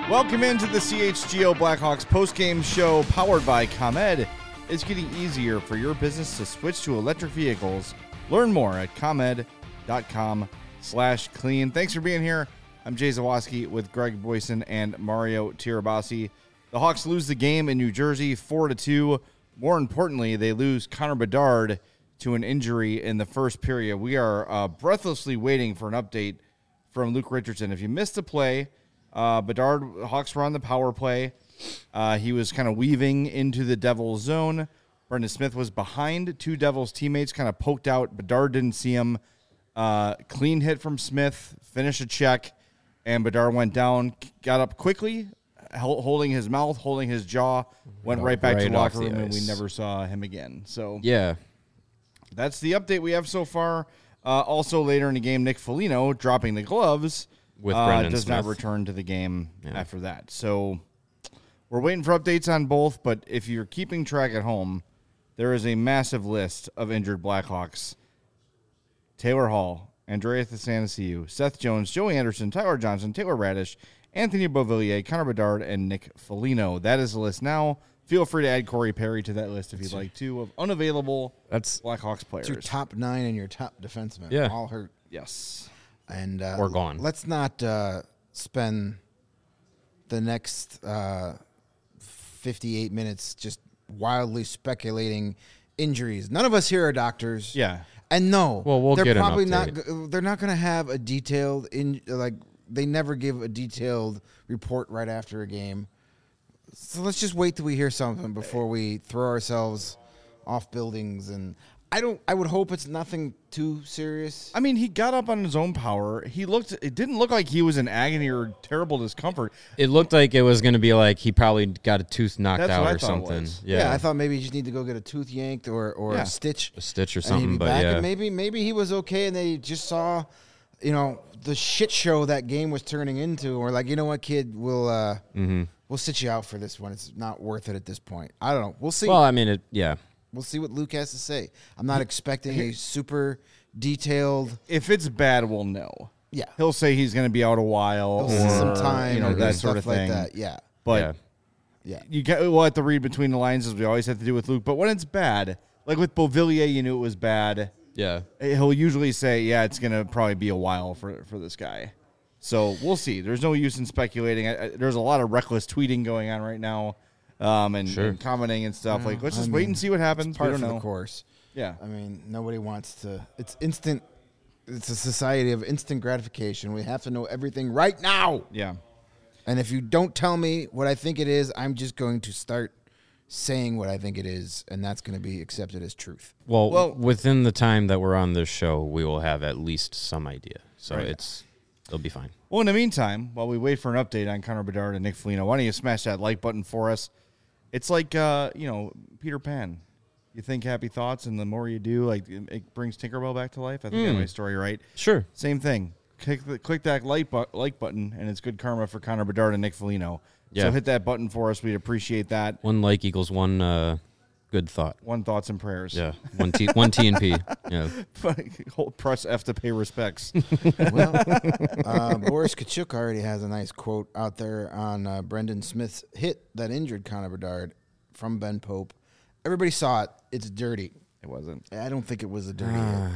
Welcome into the CHGO Blackhawks postgame show powered by ComEd. It's getting easier for your business to switch to electric vehicles. Learn more at ComEd.com/clean. Thanks for being here. I'm Jay Zawoski with Greg Boyson and Mario Tirabassi. The Hawks lose the game in New Jersey 4-2. More importantly, they lose Connor Bedard to an injury in the first period. We are breathlessly waiting for an update from Luke Richardson. If you missed the play, Bedard, Hawks were on the power play. He was kind of weaving into the Devils zone. Brendan Smith was behind two Devils teammates, kind of poked out. Bedard didn't see him. Clean hit from Smith, finished a check, and Bedard went down, got up quickly, holding his mouth, holding his jaw, went right back to the locker room, and we never saw him again. So yeah, that's the update we have so far. Also later in the game, Nick Foligno dropping the gloves with Brendan does Smith. not return to the game after that. So we're waiting for updates on both, but if you're keeping track at home, there is a massive list of injured Blackhawks. Taylor Hall, Andrea Athanasiou, Seth Jones, Joey Anderson, Tyler Johnson, Taylor Radish, Anthony Beauvillier, Connor Bedard, and Nick Foligno. That is the list now. Feel free to add Corey Perry to that list if you'd like to, of unavailable Blackhawks players. It's your top 9 and your top defensemen. Yeah. All hurt. Yes. And or gone. Let's not spend the next 58 minutes just wildly speculating injuries. None of us here are doctors. Yeah. And no, well, we'll they're get probably an update. they're not going to have a detailed they never give a detailed report right after a game. So let's just wait till we hear something before we throw ourselves off buildings. And I would hope it's nothing too serious. I mean, he got up on his own power. It didn't look like he was in agony or terrible discomfort. It looked like it was going to be like he probably got a tooth knocked That's out what I or thought it something. was. Yeah, I thought maybe you just need to go get a tooth yanked or a stitch. A stitch or And something, he'd be but back. yeah. And maybe he was okay and they just saw, the shit show that game was turning into. Or like, you know what, kid, we'll sit you out for this one. It's not worth it at this point. I don't know. We'll see. Well, I mean, We'll see what Luke has to say. I'm not expecting a super detailed. If it's bad, we'll know. Yeah. He'll say he's going to be out a while, He'll or see some time, or that stuff sort of like thing. that. Yeah. But we'll have to read between the lines, as we always have to do with Luke. But when it's bad, like with Beauvillier, you knew it was bad. yeah. He'll usually say, it's going to probably be a while for this guy. So we'll see. There's no use in speculating. There's a lot of reckless tweeting going on right now, and commenting and stuff. Let's just wait and see what happens. It's part we of don't the know. course. Yeah. I mean, nobody wants to. It's instant. It's a society of instant gratification. We have to know everything right now. Yeah. And if you don't tell me what I think it is, I'm just going to start saying what I think it is, and that's going to be accepted as truth. Well, within the time that we're on this show, we will have at least some idea. So Right. it'll be fine. Well, in the meantime, while we wait for an update on Connor Bedard and Nick Foligno, why don't you smash that like button for us? It's like, Peter Pan. You think happy thoughts, and the more you do, it brings Tinkerbell back to life. I think I have my story right. Sure. Same thing. Click that like button, and it's good karma for Connor Bedard and Nick Foligno. Yeah. So hit that button for us. We'd appreciate that. One like equals one good thought. One thoughts and prayers. Yeah. One T and P. Yeah. Press F to pay respects. Well, Boris Kachuk already has a nice quote out there on Brendan Smith's hit that injured Connor Bedard from Ben Pope. Everybody saw it. It's dirty. It wasn't. I don't think it was a dirty hit.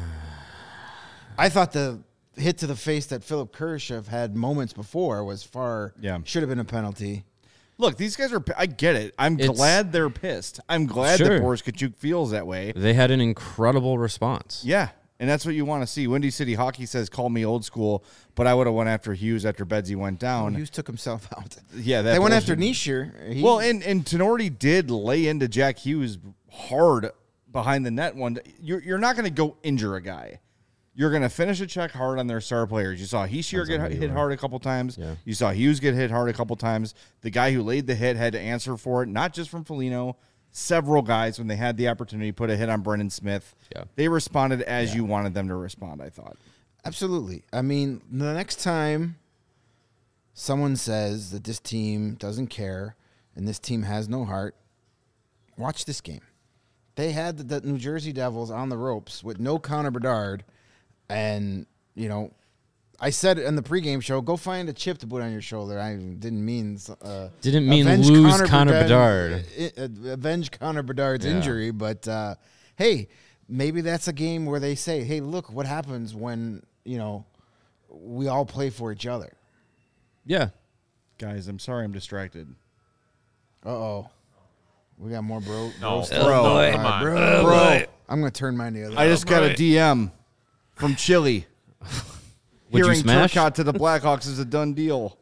I thought the hit to the face that Philip Kurashev had moments before was should have been a penalty. Look, these guys I get it. I'm glad they're pissed. I'm glad that Boris Kachuk feels that way. They had an incredible response. Yeah, and that's what you want to see. Windy City Hockey says, call me old school, but I would have went after Hughes after Bedsy went down. Hughes took himself out. Yeah, they went after Nischer. Well, and Tenorti did lay into Jack Hughes hard behind the net one. You're not going to go injure a guy. You're going to finish a check hard on their star players. You saw Hischier get hit hard a couple times. Yeah. You saw Hughes get hit hard a couple times. The guy who laid the hit had to answer for it, not just from Foligno. Several guys, when they had the opportunity, put a hit on Brendan Smith. Yeah. They responded as you wanted them to respond, I thought. Absolutely. I mean, the next time someone says that this team doesn't care and this team has no heart, watch this game. They had the New Jersey Devils on the ropes with no Connor Bedard, and, I said in the pregame show, go find a chip to put on your shoulder. I didn't mean Didn't lose Connor Bedard. Avenge Connor Bedard's injury, but hey, maybe that's a game where they say, hey, look what happens when, we all play for each other. Yeah. Guys, I'm sorry I'm distracted. Uh-oh. We got more bro. No, stuff. no, come on. Bro, I'm going to turn mine the other I way. just got a right. DM from Chile. Would you Hearing smash? Turcotte to the Blackhawks is a done deal.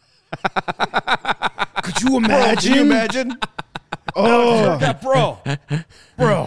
Could you imagine? Can you imagine? Oh, Bro.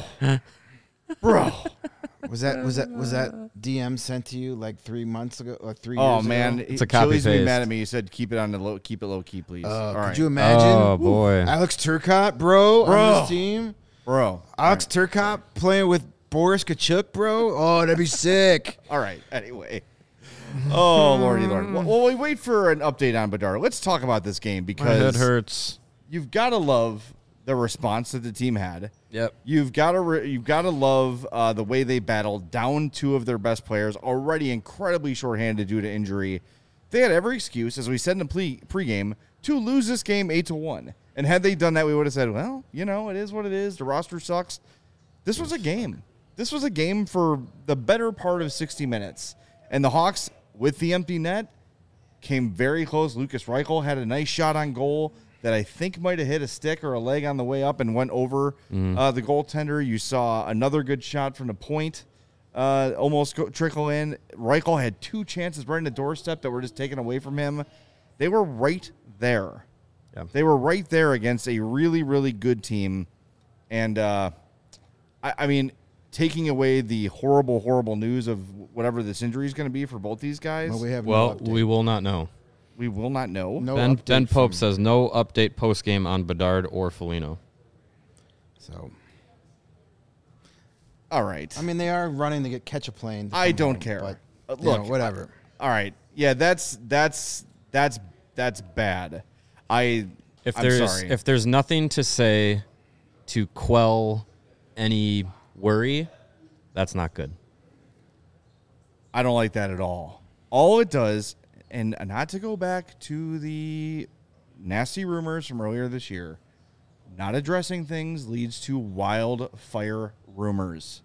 was that DM sent to you like 3 months ago, like 3 years Oh ago? man, It's a copy Chile's gonna be paste. mad at me. He said keep it on the low, keep it low key, please. All right, Could you imagine? Oh, boy. Alex Turcotte, bro, on this team. bro. Alex Turcotte playing with Boris Kachuk, bro. Oh, that'd be sick. All right. Anyway. Oh lordy lord. Well, we wait for an update on Bedard. Let's talk about this game My because head hurts. you've got to love the response that the team had. Yep. You've got to love the way they battled down two of their best players, already incredibly shorthanded due to injury. They had every excuse, as we said in the pregame, to lose this game 8-1. And had they done that, we would have said, well, it is what it is. The roster sucks. This was a game. This was a game for the better part of 60 minutes. And the Hawks, with the empty net, came very close. Lucas Reichel had a nice shot on goal that I think might have hit a stick or a leg on the way up and went over the goaltender. You saw another good shot from the point almost trickle in. Reichel had two chances right in the doorstep that were just taken away from him. They were right there. Yeah. They were right there against a really, really good team. And, I mean, taking away the horrible, horrible news of whatever this injury is going to be for both these guys, Well, we have Well, no update. we will not know. we will not know. No Ben update Pope from- says no update post game on Bedard or Foligno. So, All right. I mean, they are running to catch a plane. to I come don't home, care. But, Look, whatever. All right. Yeah, that's bad. I'm sorry. If there's nothing to say to quell any worry, that's not good. I don't like that at all. All it does, and not to go back to the nasty rumors from earlier this year, not addressing things leads to wildfire rumors.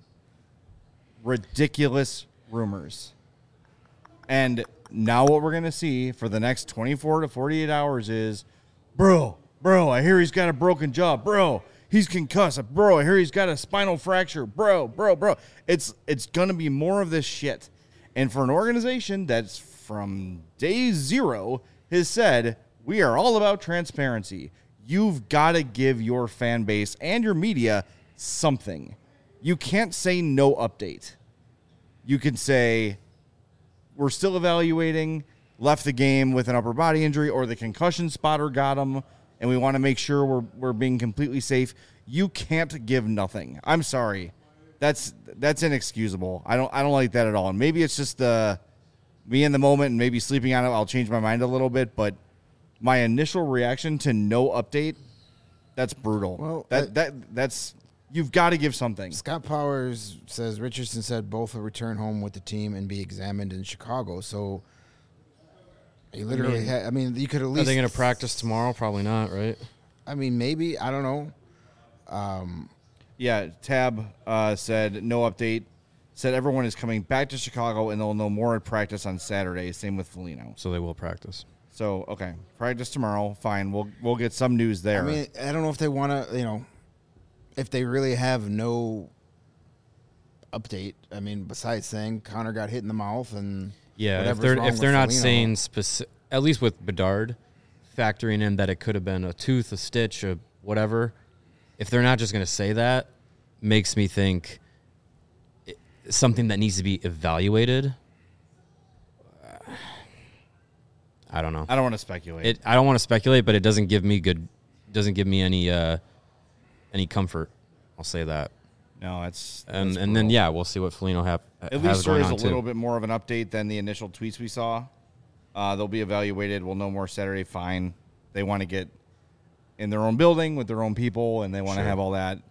Ridiculous rumors. And now what we're going to see for the next 24 to 48 hours is, bro, I hear he's got a broken jaw. Bro, he's concussed. Bro, I hear he's got a spinal fracture. Bro. It's going to be more of this shit. And for an organization that's from day zero has said, we are all about transparency. You've got to give your fan base and your media something. You can't say no update. You can say, we're still evaluating, left the game with an upper body injury, or the concussion spotter got him, and we want to make sure we're being completely safe. You can't give nothing. I'm sorry. That's inexcusable. I don't like that at all. And maybe it's just me in the moment and maybe sleeping on it. I'll change my mind a little bit, but my initial reaction to no update, that's brutal. Well, that's you've got to give something. Scott Powers says Richardson said both will return home with the team and be examined in Chicago. So he literally had. You could at Are least. they going to practice tomorrow? Probably not, right? Maybe. I don't know. Yeah, Tab said no update. Said everyone is coming back to Chicago and they'll know more at practice on Saturday. Same with Foligno. So they will practice. So okay, practice tomorrow. Fine, we'll get some news there. I don't know if they want to. If they really have no update. Besides saying Connor got hit in the mouth and Yeah, whatever's wrong if with they're not Foligno. saying specific, at least with Bedard, factoring in that it could have been a tooth, a stitch, or whatever. If they're not just going to say that, makes me think something that needs to be evaluated. I don't know. I don't want to speculate. I don't want to speculate, but it doesn't give me any comfort. I'll say that. No, that's And brutal. then we'll see what Foligno At has least there going is on a too. little bit more of an update than the initial tweets we saw. They'll be evaluated. We'll know more Saturday. Fine. They want to get in their own building with their own people, and they want to have all that.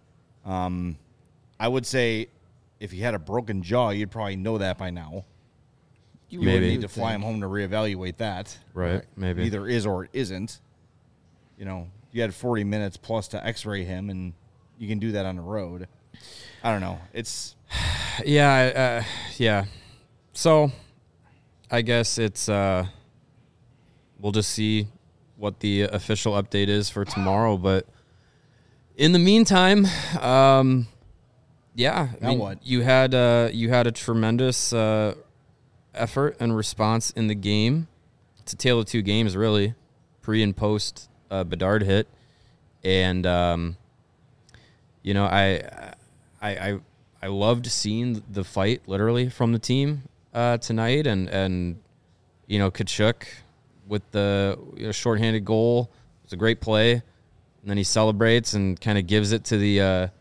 I would say if you had a broken jaw, you'd probably know that by now. You Maybe. would need to would fly him think. home to reevaluate that. Right. Maybe. Either is or it isn't. You know, you had 40 minutes plus to X-ray him, and you can do that on the road. I don't know. It's Yeah. Yeah. So, I guess it's we'll just see what the official update is for tomorrow. But in the meantime, yeah. Now what? You had a tremendous effort and response in the game. It's a tale of two games, really, pre and post Bedard hit, and you know, I loved seeing the fight literally from the team tonight, and you know, Tkachuk with the shorthanded goal. It's a great play, and then he celebrates and kind of gives it to the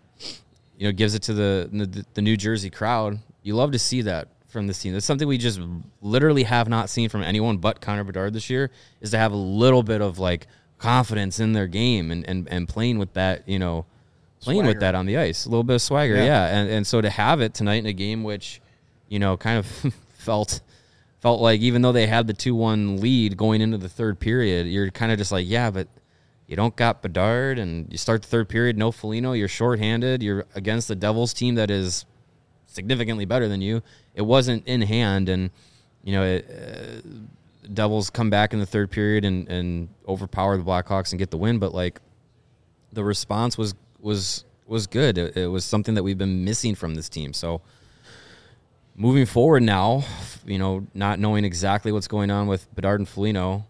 the New Jersey crowd. You love to see that from this team. That's something we just literally have not seen from anyone but Connor Bedard this year, is to have a little bit of like confidence in their game and playing with that, you know, playing Swagger. with that on the ice, a little bit of swagger. Yeah. And so to have it tonight in a game, which, you know, kind of felt like, even though they had the 2-1 lead going into the third period, you're kind of just like, yeah, but you don't got Bedard, and you start the third period, no Foligno, you're shorthanded, you're against the Devils team that is significantly better than you. It wasn't in hand, and, you know, Devils come back in the third period and overpower the Blackhawks and get the win, but, like, the response was good. It was something that we've been missing from this team. So moving forward now, you know, not knowing exactly what's going on with Bedard and Foligno,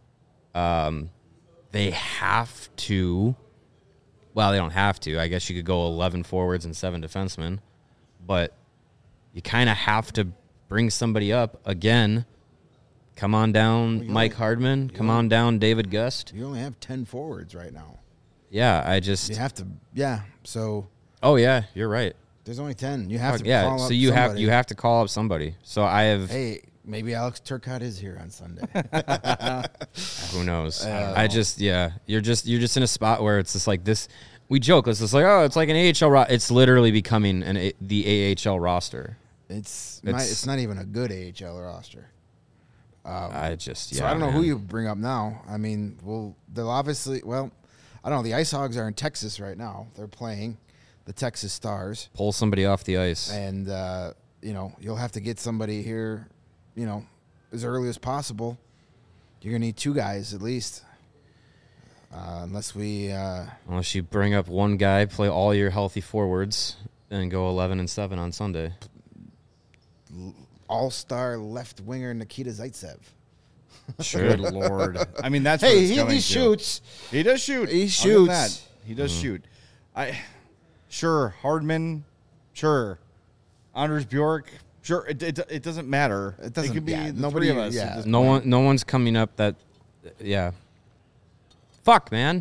they have to. Well, they don't have to. I guess you could go 11 forwards and 7 defensemen, but you kind of have to bring somebody up again. Come on down, Mike Hardman. Come on down, David Gust. You only have 10 forwards right now. Yeah, I just. You have to, yeah. So Oh yeah, you're right. there's only 10. You have to Yeah, call so up you somebody. have to call up somebody. So I have. Hey, maybe Alex Turcotte is here on Sunday. Who knows? I just, yeah, you're just in a spot where it's just like this. We joke, it's just like, oh, it's like an AHL. It's literally becoming the AHL roster. It's It's- not even a good AHL roster. I just, yeah. So I don't know man. who you bring up now. I mean, they'll obviously, well, I don't know. The Ice Hogs are in Texas right now. They're playing the Texas Stars. pull somebody off the ice. And, you know, you'll have to get somebody here, you know, as early as possible. You're going to need 2 guys at least. Unless we... Unless you bring up one guy, play all your healthy forwards, and go 11-7 on Sunday. all-star left winger Nikita Zaitsev. Sure. good Lord. I mean, that's what Hey, it's coming he to. shoots. He does shoot. He I'll give him shoots. that. He does shoot. Sure, Hardman. Sure, Anders Bjork. Sure, it doesn't matter. It doesn't- It could be yeah, the nobody- 3 of us. yeah. at this No point. one's coming up that. Yeah. Fuck, man.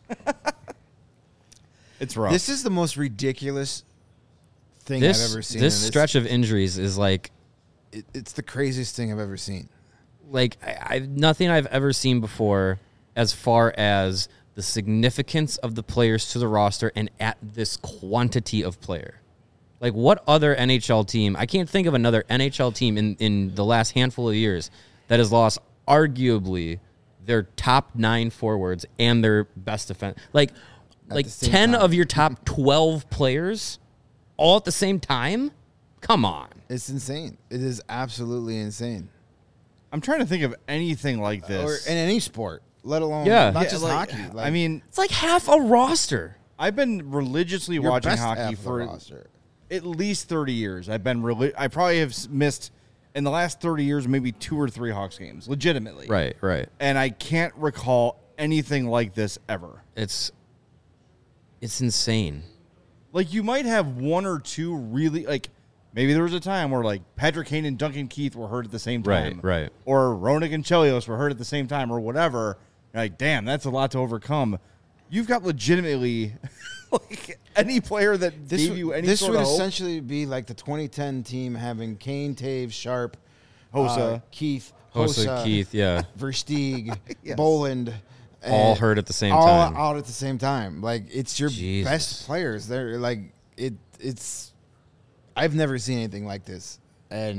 It's rough. This is the most ridiculous thing This I've ever seen. this and stretch of injuries is like. it's the craziest thing I've ever seen. Like I've nothing I've ever seen before as far as the significance of the players to the roster and at this quantity of player. Like, what other NHL team? I can't think of another NHL team in the last handful of years that has lost arguably their top 9 forwards and their best defense. Like the same 10 time. of your top 12 players all at the same time? Come on. It's insane. It is absolutely insane. I'm trying to think of anything like this. Or in any sport, let alone Yeah. not Yeah, just like, hockey. I mean, It's like half a roster. I've been religiously your watching best hockey half of the for roster. at least 30 years. I probably have missed in the last 30 years maybe 2 or 3 Hawks games, legitimately. Right. And I can't recall anything like this ever. It's insane. Like, you might have 1 or 2 really, like, maybe there was a time where, like, Patrick Kane and Duncan Keith were hurt at the same time. Right. Or Roenick and Chelios were hurt at the same time or whatever. You're like, damn, that's a lot to overcome. You've got legitimately, like, any player that gave you any this sort would of hope. essentially be like the 2010 team having Kane, Taves, Sharp, Hossa. Keith, Hossa, Hossa, Keith, yeah. Versteeg, Yes. Boland. All and hurt at the same all time. out at the same time. Like, it's your Jesus. best players. They're like it's. I've never seen anything like this, and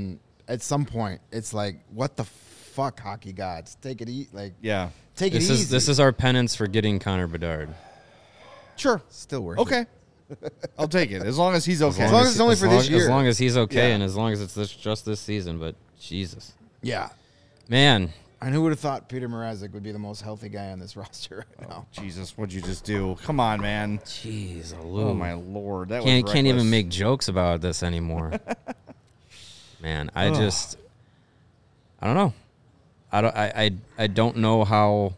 at some point, it's like, what the fuck, hockey gods? Take it easy. Like, Yeah. take it This easy. is our penance for getting Connor Bedard. Sure. Still worth Okay. I'll take it as long as he's okay. As long as it's only for this year. As long as he's okay, Yeah. and as long as it's just this season. But Jesus, Yeah. man, And who would have thought Peter Mrazek would be the most healthy guy on this roster right now? Jesus, what'd you just do? Come on, man. jeez, Oh my Lord, that can't was even reckless. make jokes about this anymore. Man, I don't know. I don't know how.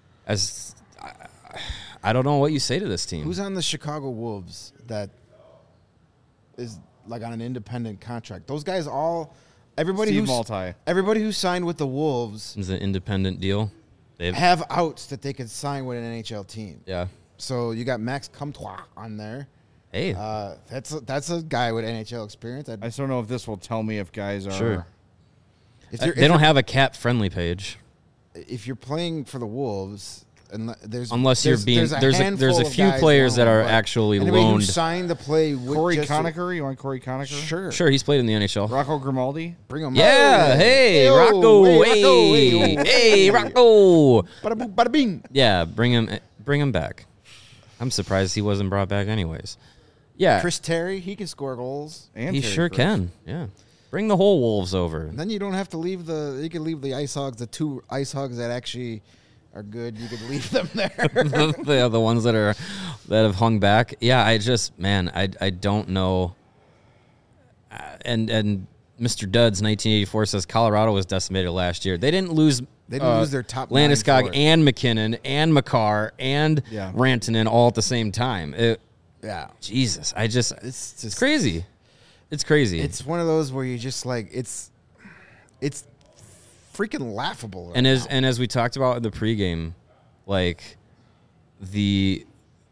I don't know what you say to this team. Who's on the Chicago Wolves that is like on an independent contract? Those guys all, everybody Steve who's Maltai. everybody who signed with the Wolves Is an independent deal? They've, have outs that they could sign with an NHL team. yeah. So you got Max Comtois on there. Hey, That's a guy with NHL experience. I just don't know if this will tell me if guys are. Sure. If they don't have a cap friendly page. If you're playing for the Wolves, and Unless you're being- there's a few players that are actually anybody who loaned. signed to play with Corey just Conacher. You want Corey Conacher? Sure, Sure, he's played in the NHL. Rocco Grimaldi. bring him. Yeah, hey, Rocco, hey, Rocco. Bada boom, bada bing. Yeah, bring him back. I'm surprised he wasn't brought back anyways. Yeah, Chris Terry, he can score goals. And he Terry sure Fritz. can. Yeah, bring the whole Wolves over. And then you don't have to leave you can leave the Ice Hogs, the two Ice Hogs that actually are good. You could leave them there. the ones that have hung back. Yeah, I don't know. And Mr. Duds 1984 says Colorado was decimated last year. They didn't lose. They didn't lose their top 9 Landeskog for it. and McKinnon and McCarr and Yeah. Rantanen all at the same time. Yeah, Jesus, it's it's just crazy. It's crazy. It's one of those where you just like it's freaking laughable. Right and now. as we talked about in the pregame, like the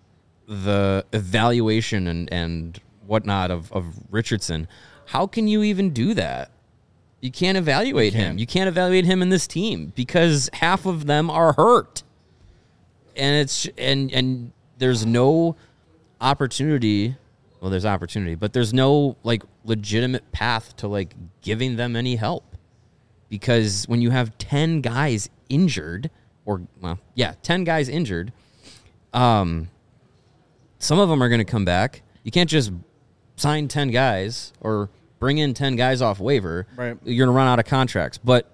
evaluation and whatnot of Richardson, how can you even do that? You can't evaluate him. You can't evaluate him in this team because half of them are hurt, and and there's no opportunity. Well, there's opportunity, but there's no like legitimate path to like giving them any help. Because when you have 10 guys injured, 10 guys injured, some of them are going to come back. You can't just sign 10 guys or bring in 10 guys off waiver. Right. You're going to run out of contracts. But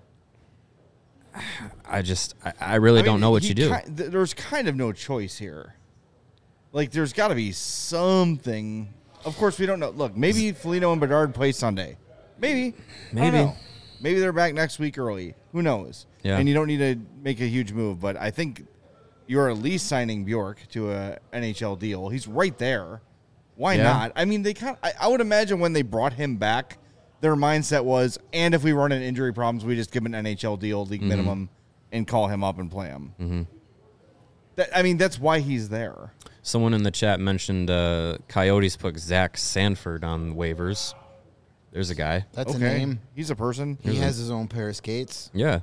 I really don't know what you do. There's kind of no choice here. Like, there's got to be something. Of course, we don't know. Look, maybe Foligno and Bedard play Sunday. Maybe. I don't know. Maybe they're back next week early. Who knows? Yeah. And you don't need to make a huge move, but I think you're at least signing Bjork to a NHL deal. He's right there. Why not? I mean, I would imagine when they brought him back, their mindset was, and if we run into injury problems, we just give him an NHL deal, league minimum, and call him up and play him. Mm-hmm. That's why he's there. Someone in the chat mentioned Coyotes put Zach Sanford on waivers. There's a guy. That's a name. He's a person. He has his own pair of skates. Yeah.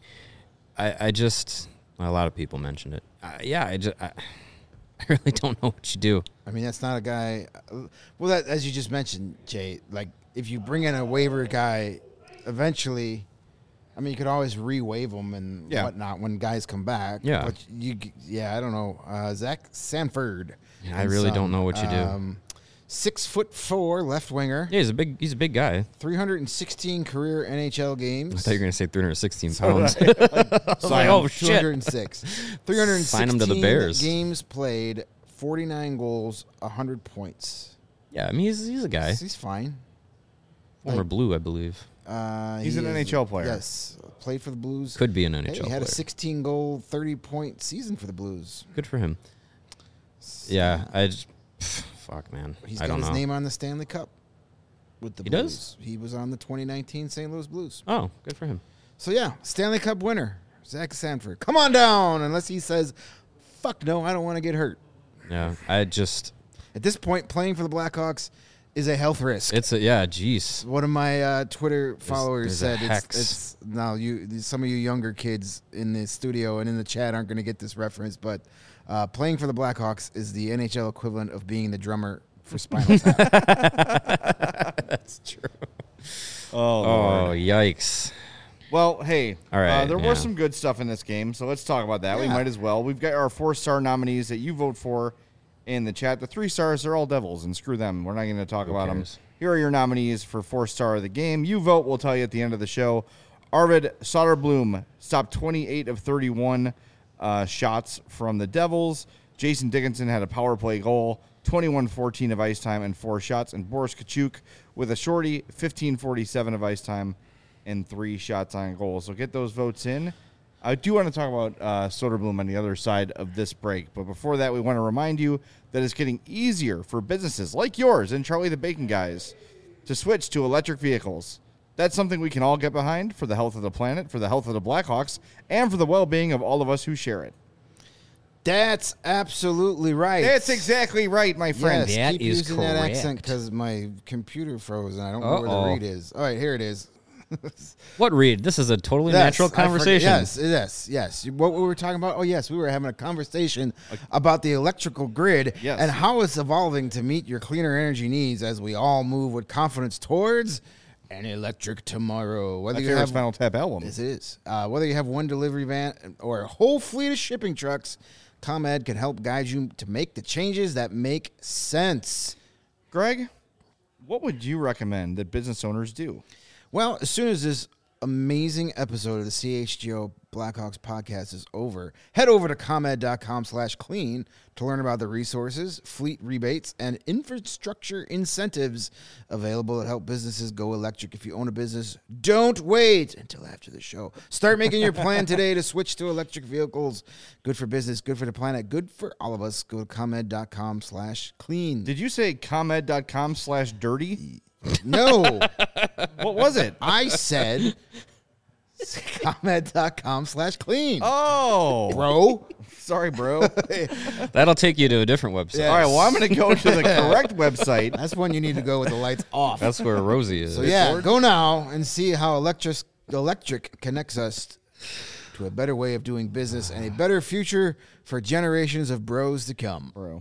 A lot of people mentioned it. I really don't know what you do. I mean, that's not a guy. Well, that as you just mentioned, Jay. Like, if you bring in a waiver guy, eventually, I mean, you could always re-waive them and whatnot when guys come back. Yeah. But I don't know. Zach Sanford. I really don't know what you do. 6'4" left winger. Yeah, he's a big guy. 316 career NHL games. I thought you were going to say 316 pounds. Oh, shit. 206. 316 Sign him to the Bears. games played, 49 goals, 100 points. Yeah, I mean, he's a guy. He's fine. Former Blue, I believe. He's an NHL player. Yes, played for the Blues. Could be an NHL He had player. a 16-goal, 30-point season for the Blues. Good for him. Yeah, fuck, man. He's I got don't his know. name on the Stanley Cup with the He Blues. does? He was on the 2019 St. Louis Blues. Oh, good for him. So, yeah, Stanley Cup winner, Zach Sanford. Come on down, unless he says, fuck no, I don't want to get hurt. Yeah, At this point, playing for the Blackhawks is a health risk. jeez. One of my Twitter followers there's a said hex. it's now some of you younger kids in the studio and in the chat aren't going to get this reference, but playing for the Blackhawks is the NHL equivalent of being the drummer for Spinal Tap. That's true. Oh, Lord. yikes. Well, hey, All right, there yeah. was some good stuff in this game, so let's talk about that. We Yeah. might as well. We've got our 4-star nominees that you vote for in the chat. The 3 stars are all devils, and screw them. We're not going to talk about them. cares? Here are your nominees for 4-star of the game. You vote, we'll tell you at the end of the show. Arvid Soderblom stopped 28 of 31 shots from the Devils. Jason Dickinson had a power play goal, 21-14 of ice time and 4 shots. And Boris Kachuk with a shorty, 15-47 of ice time and 3 shots on goal. So get those votes in. I do want to talk about Soderblom on the other side of this break. But before that, we want to remind you that it's getting easier for businesses like yours and Charlie the Bacon Guys to switch to electric vehicles. That's something we can all get behind for the health of the planet, for the health of the Blackhawks, and for the well-being of all of us who share it. That's absolutely right. That's exactly right, my friend. Yes, That keep is using that correct. accent because my computer froze and I don't know where Uh-oh. the read is. All right, here it is. What, Reed? This is a totally Yes, natural I forget- conversation. yes. What we were talking about? Oh, yes, we were having a conversation about the electrical grid Yes. and how it's evolving to meet your cleaner energy needs as we all move with confidence towards an electric tomorrow. Whether My you favorite have Spinal Tap album. This is. Whether you have one delivery van or a whole fleet of shipping trucks, ComEd can help guide you to make the changes that make sense. Greg, what would you recommend that business owners do? Well, as soon as this amazing episode of the CHGO Blackhawks podcast is over, head over to ComEd.com/clean to learn about the resources, fleet rebates, and infrastructure incentives available that help businesses go electric. If you own a business, don't wait until after the show. Start making your plan today to switch to electric vehicles. Good for business, good for the planet, good for all of us. Go to ComEd.com/clean. Did you say ComEd.com/dirty? No, What was it? I said ComEd.com/clean. Oh, Bro. sorry, bro. That'll take you to a different website. Yeah. All right, well, I'm going to go to the correct website. That's when you need to go with the lights off. That's where Rosie is. So yeah, go now and see how electric connects us to a better way of doing business and a better future for generations of bros to come. Bro.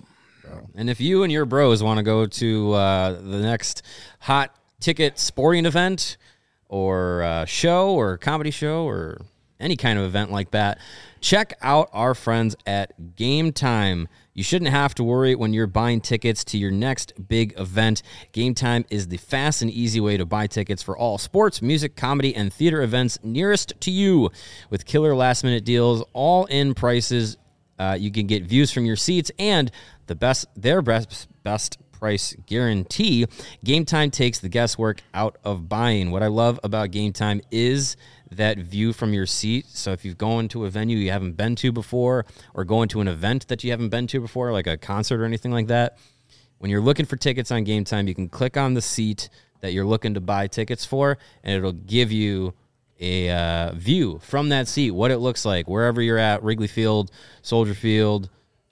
And if you and your bros want to go to the next hot ticket sporting event or show or comedy show or any kind of event like that, check out our friends at Game Time. You shouldn't have to worry when you're buying tickets to your next big event. Game Time is the fast and easy way to buy tickets for all sports, music, comedy, and theater events nearest to you. With killer last-minute deals, all-in prices, you can get views from your seats and their best price guarantee. Game Time takes the guesswork out of buying. What I love about Game Time is that view from your seat. So if you've gone to a venue you haven't been to before or going to an event that you haven't been to before, like a concert or anything like that, when you're looking for tickets on Game Time, you can click on the seat that you're looking to buy tickets for, and it'll give you a view from that seat, what it looks like, wherever you're at, Wrigley Field, Soldier Field,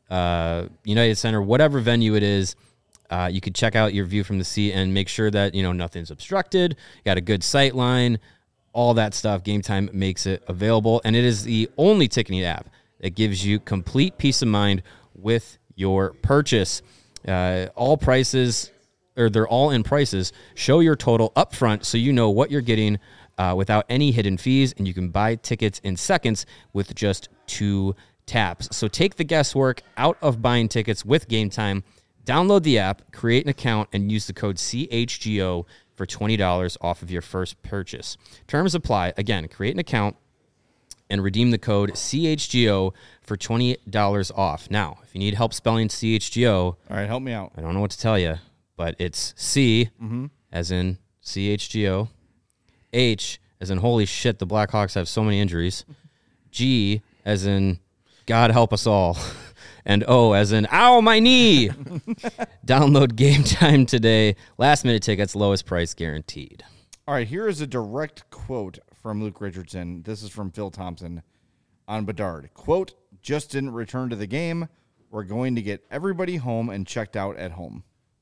United Center, whatever venue it is. You could check out your view from the seat and make sure that, nothing's obstructed. You got a good sight line, all that stuff. Game Time makes it available, and it is the only ticketing app that gives you complete peace of mind with your purchase. All prices, or they're all in prices. Show your total up front so you know what you're getting without any hidden fees, and you can buy tickets in seconds with just 2 taps. So take the guesswork out of buying tickets with Game Time. Download the app, create an account, and use the code CHGO for $20 off of your first purchase. Terms apply. Again, create an account and redeem the code CHGO for $20 off. Now, if you need help spelling CHGO, All right, help me out. I don't know what to tell you, but it's C as in CHGO, H as in holy shit, the Blackhawks have so many injuries, G as in God help us all, and O as in ow, my knee. Download Game Time today. Last minute tickets, lowest price guaranteed. All right, here is a direct quote from Luke Richardson. This is from Phil Thompson on Bedard. Quote, just didn't return to the game. We're going to get everybody home and checked out at home.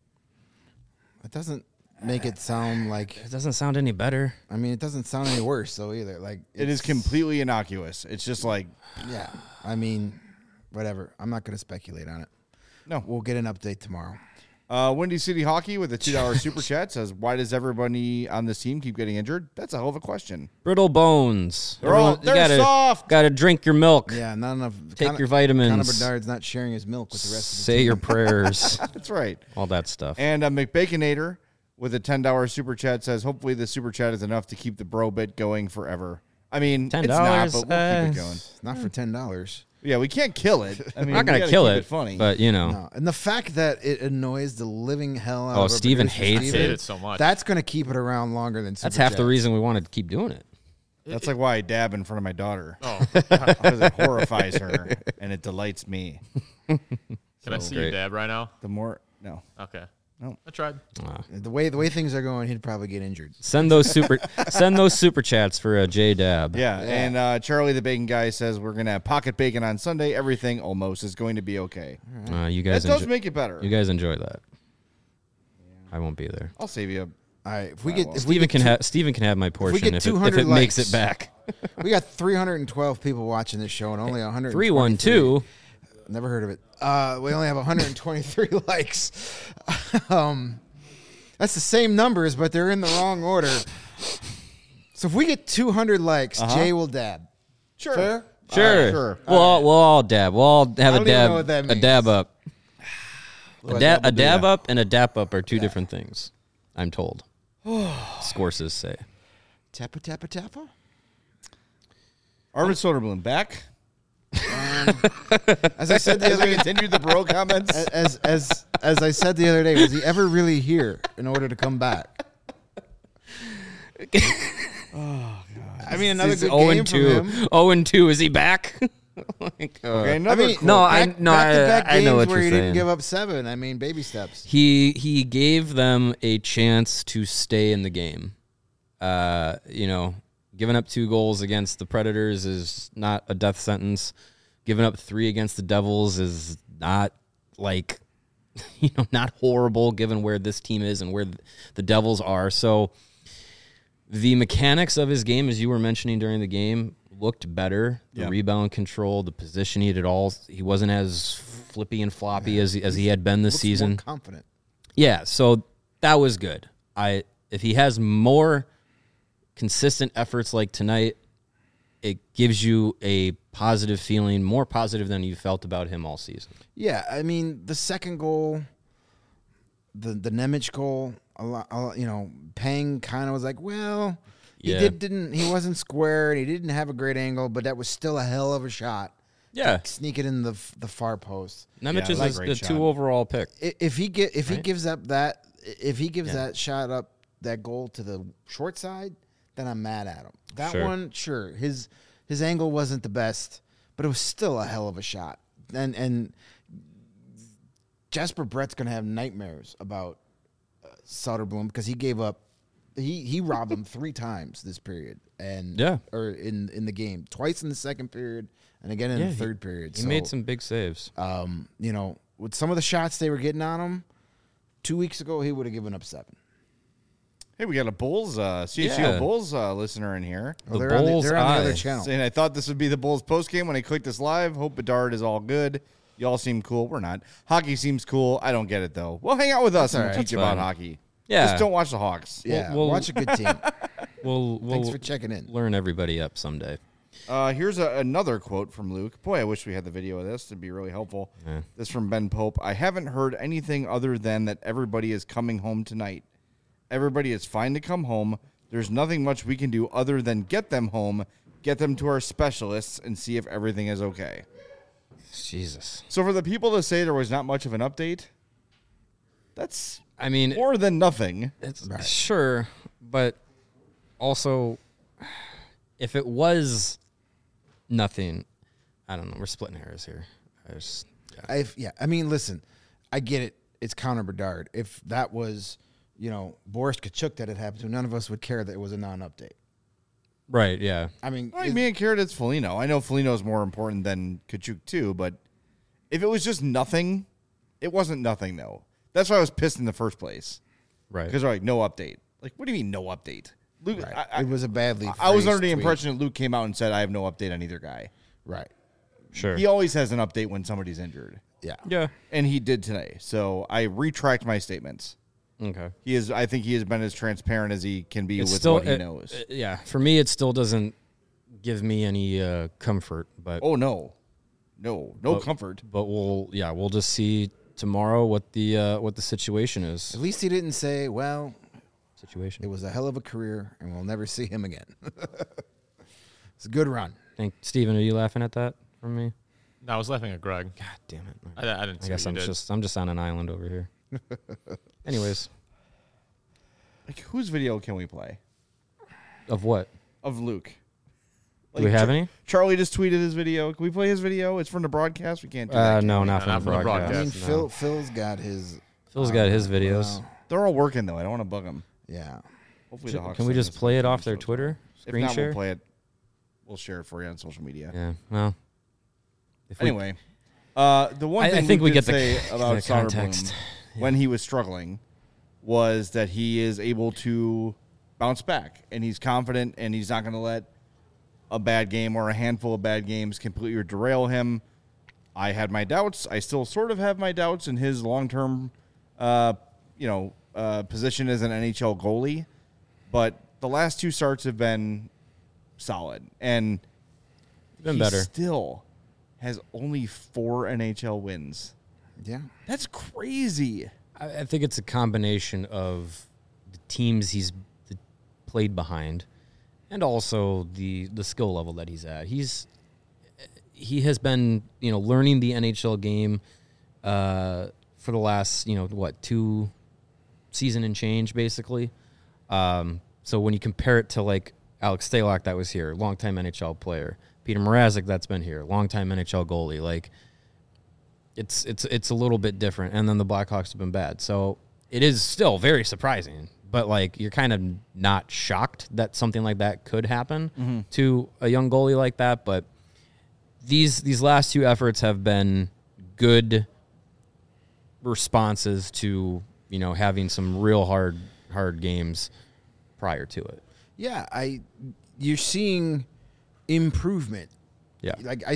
It doesn't make it sound like, It doesn't sound any better. I mean, it doesn't sound any worse, though, either. Like It is completely innocuous. It's just like, Yeah. I mean, whatever. I'm not going to speculate on it. no. We'll get an update tomorrow. Windy City Hockey with a $2 super chat says, "Why does everybody on this team keep getting injured?" That's a hell of a question. Brittle bones. They're soft. Got to drink your milk. Yeah, not enough. Take your vitamins. Connor Bedard's not sharing his milk with the rest of the Say team. your prayers. That's right. All that stuff. And McBaconator with a $10 super chat says, "Hopefully the super chat is enough to keep the bro bit going forever." I mean, $10, it's not, but we'll keep it going. Not for $10. Yeah, we can't kill it. I mean, I'm not we gonna gotta kill keep it, funny. but No. And the fact that it annoys the living hell out of our Steven producer, hates I Steven, hate it so much. That's going to keep it around longer than Super That's half the Chats. reason we wanted to keep doing it. That's like why I dab in front of my daughter. Oh, Because it horrifies her and it delights me. can I see great. you dab right now? The more, no. Okay. No. I tried. The way things are going, he'd probably get injured. Send those super chats for J Dab. Yeah, and Charlie the Bacon Guy says we're going to have pocket bacon on Sunday. Everything almost is going to be okay. You That guys does make it better. You guys enjoy that. I won't be there. I'll save you. All right, if we get if we Steven get Steven can have my portion get if 200 it makes likes. it back. we got 312 people watching this show and only 100 312. Never heard of it. We only have 123 likes. That's the same numbers, but they're in the wrong order. So if we get 200 likes, Jay will dab. Sure. Fair? Sure. Sure. We'll all dab. We'll all have I a don't even dab. know what that A means. dab up. What, A dab yeah. up and a dap up are two different things. I'm told. Scourses say. Tappa, tappa, tappa? Arvid Soderblom back. As I said the As other we continue the bro comments. as I said the other day, was he ever really here in order to come back? I mean, another He's good 0 game and from 2. him. 0 and 2. Is he back? Like, Okay, another I mean, quote. No, back-to-back I know games what where you're he saying. didn't give up 7. I mean, baby steps. He gave them a chance to stay in the game. Giving up 2 goals against the Predators is not a death sentence. Giving up 3 against the Devils is not like, not horrible given where this team is and where the Devils are. So the mechanics of his game, as you were mentioning during the game, looked better. The Yeah. rebound control, the position he did all. He wasn't as flippy and floppy as he had been this Looks season. more confident. Yeah, so that was good. If he has more consistent efforts like tonight, it gives you a positive feeling, more positive than you felt about him all season. Yeah, I mean, the second goal, the Nemec goal, Pang kind of was like, well, Yeah. he wasn't square and he didn't have a great angle, but that was still a hell of a shot. Yeah, Sneak it in the far post. Nemec Yeah, is that's a a great 2 shot. overall pick. If he gives up that Yeah. that shot up that goal to the short side, then I'm mad at him. That Sure. one, sure, his angle wasn't the best, but it was still a hell of a shot. And Jasper Brett's gonna have nightmares about Soderblom because he gave up. He robbed him 3 times this period, or in the game, twice in the second period, and again in the third period. He made some big saves. With some of the shots they were getting on him 2 weeks ago, he would have given up 7. Hey, we got a Bulls, CHGO Yeah. Bulls listener in here. Well, The they're on Bulls' the other eye. channel. Saying, I thought this would be the Bulls postgame when I clicked this live. Hope Bedard is all good. Y'all seem cool. We're not. Hockey seems cool. I don't get it, though. Well, hang out with us and all we'll right. teach you That's about fine. hockey. Yeah. Just don't watch the Hawks. Yeah, We'll- watch a good team. We'll Thanks for checking in. learn everybody up someday. Here's another quote from Luke. Boy, I wish we had the video of this. It'd be really helpful. Yeah. This from Ben Pope. I haven't heard anything other than that everybody is coming home tonight. Everybody is fine to come home. There's nothing much we can do other than get them home, get them to our specialists, and see if everything is okay. Jesus. So for the people to say there was not much of an update, that's I mean, more than nothing. it's sure, but also, if it was nothing, I don't know. We're splitting hairs here. I mean, listen, I get it. It's Connor Bedard. If that was, Boris Kachuk that had happened to, none of us would care that it was a non-update. Right, yeah. I mean, I mean, Carrot, it's Foligno. I know Foligno is more important than Kachuk too, but if it was just nothing, it wasn't nothing though. That's why I was pissed in the first place. Right. Because they're like, no update. Like, what do you mean no update? Luke, right. It was a badly I was under phrased the tweet. impression that Luke came out and said, I have no update on either guy. Right. Sure. He always has an update when somebody's injured. Yeah. Yeah. and he did today. So I retract my statements. Okay. I think he has been as transparent as he can be It's with still, what he knows. Yeah. For me, it still doesn't give me any comfort. But Oh no comfort. But we'll just see tomorrow what the situation is. At least he didn't say, well, Situation. it was a hell of a career and we'll never see him again. It's a good run. Steven, are you laughing at that from me? No, I was laughing at Greg. God damn it. I didn't see I guess what you did. I'm just on an island over here. Anyways, Like, whose video can we play of what? of Luke? Do we have any? Charlie just tweeted his video. Can we play his video? It's from the broadcast. We can't do that. can No, we? not from the broadcast. I mean, no. Phil's got his. Phil's got his videos. Wow. They're all working though. I don't want to bug them. Yeah. Hopefully, the Hawks Can we send just us play it some off their shows. Twitter If screen not, share? we'll play it. We'll share it for you on social media. Yeah. Well. If we- Anyway, the one I thing think we did get the say about the context. Soderblom when he was struggling was that he is able to bounce back, and he's confident, and he's not going to let a bad game or a handful of bad games completely derail him. I had my doubts. I still sort of have my doubts in his long-term, position as an NHL goalie, but the last two starts have been solid, and Been he better. still has only 4 NHL wins. Yeah. That's crazy. I think it's a combination of the teams he's played behind, and also the skill level that he's at. He has been learning the NHL game for the last 2 season and change basically. So when you compare it to like Alex Stalock that was here, longtime NHL player, Peter Mrazek that's been here, longtime NHL goalie, like. It's a little bit different, and then the Blackhawks have been bad, so it is still very surprising. But like you're kind of not shocked that something like that could happen to a young goalie like that. But these last 2 efforts have been good responses to having some real hard games prior to it. Yeah. You're seeing improvement. Yeah, Like,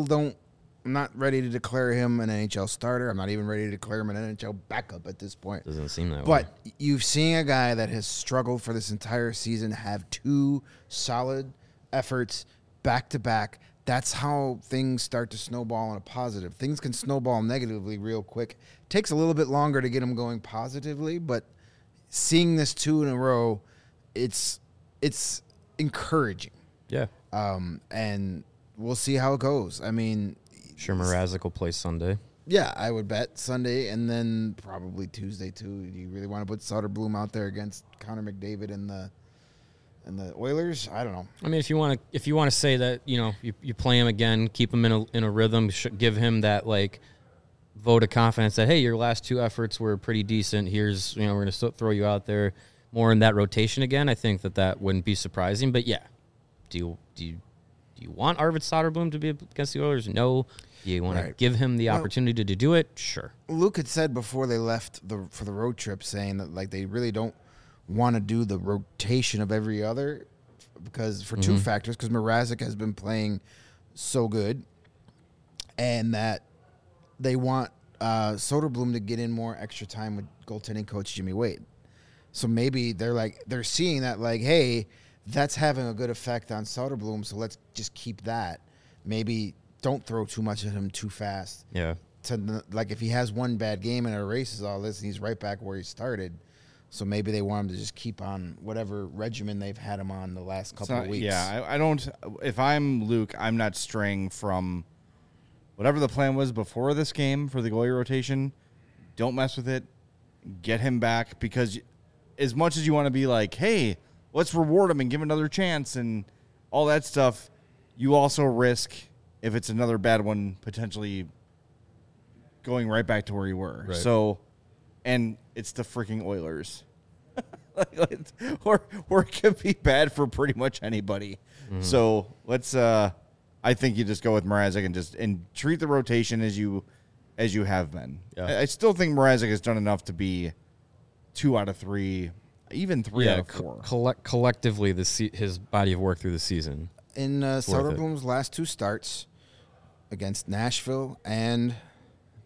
I'm not ready to declare him an NHL starter. I'm not even ready to declare him an NHL backup at this point. doesn't seem that way. But you've seen a guy that has struggled for this entire season have 2 solid efforts back to back. That's how things start to snowball in a positive. Things can snowball negatively real quick. Takes a little bit longer to get them going positively, but seeing this 2 in a row, it's encouraging. Yeah, And we'll see how it goes. I mean, sure Mrazek will play Sunday. yeah, I would bet Sunday and then probably Tuesday too. Do you really want to put Soderblom out there against Connor McDavid and the Oilers? I don't know. I mean, if you want to say that you play him again, keep him in a rhythm, give him that like vote of confidence that hey, your last 2 efforts were pretty decent. Here's we're going to throw you out there more in that rotation again. I think that wouldn't be surprising. But yeah, do you want Arvid Soderblom to be against the Oilers? No. Do you want to give him the opportunity to do it? Sure. Luke had said before they left for the road trip, saying that like they really don't want to do the rotation of every other because for 2 factors, because Mrazek has been playing so good, and that they want Soderblom to get in more extra time with goaltending coach Jimmy Wade. So maybe they're seeing that like, hey, that's having a good effect on Soderblom, so let's just keep that. Maybe don't throw too much at him too fast. Yeah. Like if he has one bad game and erases all this, and he's right back where he started. So maybe they want him to just keep on whatever regimen they've had him on the last couple of weeks. Yeah, I don't. If I'm Luke, I'm not straying from whatever the plan was before this game for the goalie rotation. Don't mess with it. Get him back, because as much as you want to be like, hey, let's reward him and give him another chance and all that stuff, you also risk, if it's another bad one, potentially going right back to where you were. Right. So, and it's the freaking Oilers. or it could be bad for pretty much anybody. So let's I think you just go with Mrazek and treat the rotation as you have been. Yeah. I still think Mrazek has done enough to be 2 out of 3, even 3 out of 4. Collectively, his body of work through the season. In worth it. Soderblom's last 2 starts against Nashville and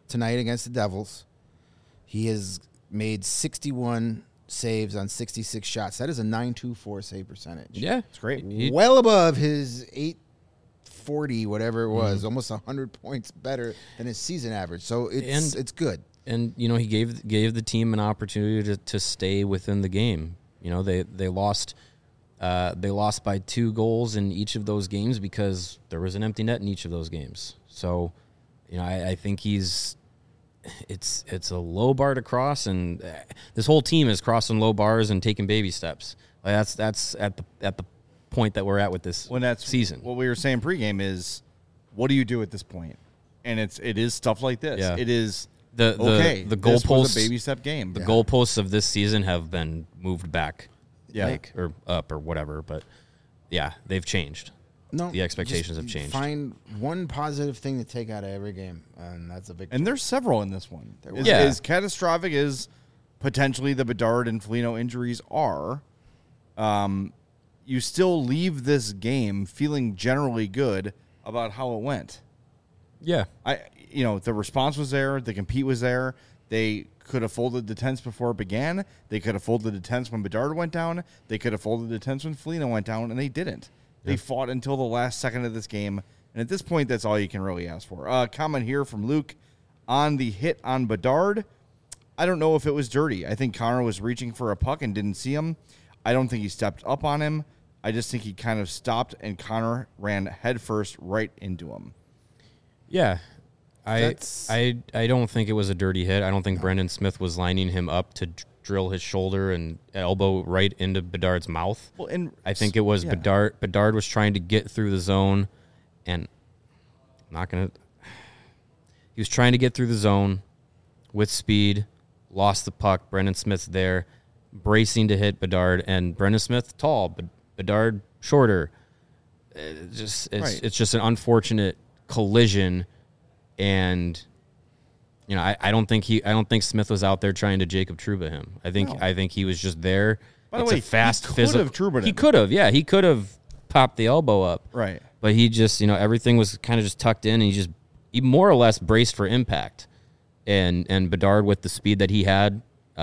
tonight against the Devils. He has made 61 saves on 66 shots. That is a .924 save percentage. Yeah, It's great. Well above his 840, whatever it Mm-hmm. was, almost 100 points better than his season average. So it's good. and he gave the team an opportunity to stay within the game. They lost by 2 goals in each of those games because there was an empty net in each of those games. So, I think it's a low bar to cross, and this whole team is crossing low bars and taking baby steps. Like that's at the point that we're at with this season. What we were saying pregame is, what do you do at this point? And it is stuff like this. Yeah. It is The this was goalposts, a baby step game. the goalposts of this season have been moved back, Yeah. or up or whatever. But yeah, they've changed. No, The expectations just have changed. Find one positive thing to take out of every game, and that's a victory. And there's several in this one. Yeah. As catastrophic as potentially the Bedard and Foligno injuries are, you still leave this game feeling generally good about how it went. Yeah, The response was there. The compete was there. They could have folded the tents before it began. They could have folded the tents when Bedard went down. They could have folded the tents when Foligno went down, and they didn't. They fought until the last second of this game, and at this point, that's all you can really ask for. Comment here from Luke on the hit on Bedard. I don't know if it was dirty. I think Connor was reaching for a puck and didn't see him. I don't think he stepped up on him. I just think he kind of stopped, and Connor ran headfirst right into him. yeah. I That's- don't think it was a dirty hit. I don't think Brendan Smith was lining him up to drill his shoulder and elbow right into Bedard's mouth. Well, and I think it was yeah. Bedard. Bedard was trying to get through the zone, and he was trying to get through the zone with speed, lost the puck. Brendan Smith's there, bracing to hit Bedard, and Brendan Smith tall, but Bedard shorter. It's just an unfortunate collision, and I don't think Smith was out there trying to Jacob Trouba him. I think he was just there. By the It's way, a fast he could physical. have Trouba He him. could have, yeah, he could have popped the elbow up, Right. but he just everything was kind of just tucked in, and he more or less braced for impact, and Bedard with the speed that he had,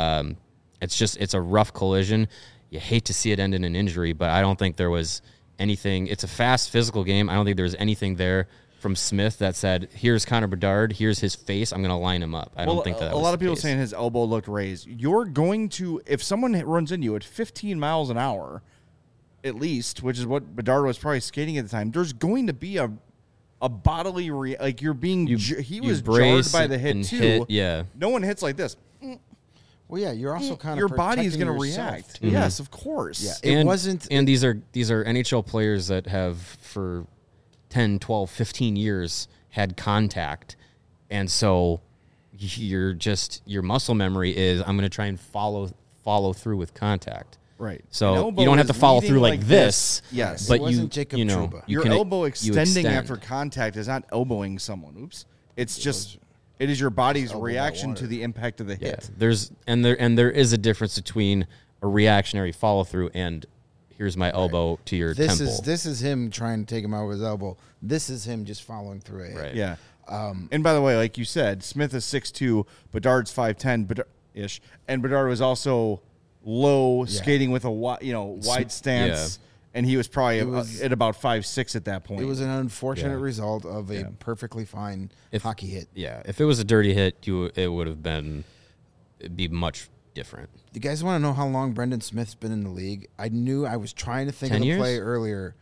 it's a rough collision. You hate to see it end in an injury, but I don't think there was anything. It's a fast physical game. I don't think there was anything there from Smith that said, here's Connor Bedard, here's his face, I'm going to line him up. I don't think that a was lot of the people case. saying his elbow looked raised. You're going to, if someone runs into you at 15 miles an hour, at least, which is what Bedard was probably skating at the time, there's going to be a bodily like you're being. He was jarred brace by the hit and too. hit, yeah. No one hits like this. Well, yeah, you're also kind of Your body's going to react. Yes, of course. Yeah. It wasn't- And these are NHL players that have for 10, 12, 15 years had contact. And so your muscle memory is, I'm going to try and follow through with contact. Right. An So elbow you don't have is to follow leading through like this. Yes. But It wasn't Jacob Trouba. you Your can elbow you extending extend. after contact is not elbowing someone. Oops. It's just it is your body's elbow that reaction to water. the impact of the Yeah, hit. there is a difference between a reactionary follow through and here's my elbow to your temple. This is him trying to take him out with his elbow. This is him just following through it. Right. Yeah. And by the way, like you said, Smith is 6'2", Bedard's 5'10", ish, and Bedard was also low, skating with a wide stance, and he was probably at about 5'6" at that point. It was an unfortunate Yeah. result of a perfectly fine hockey hit. Yeah, if it was a dirty hit, it would have been, it'd be much different. You guys want to know how long Brendan Smith's been in the league? I was trying to think 10 of the years? play earlier.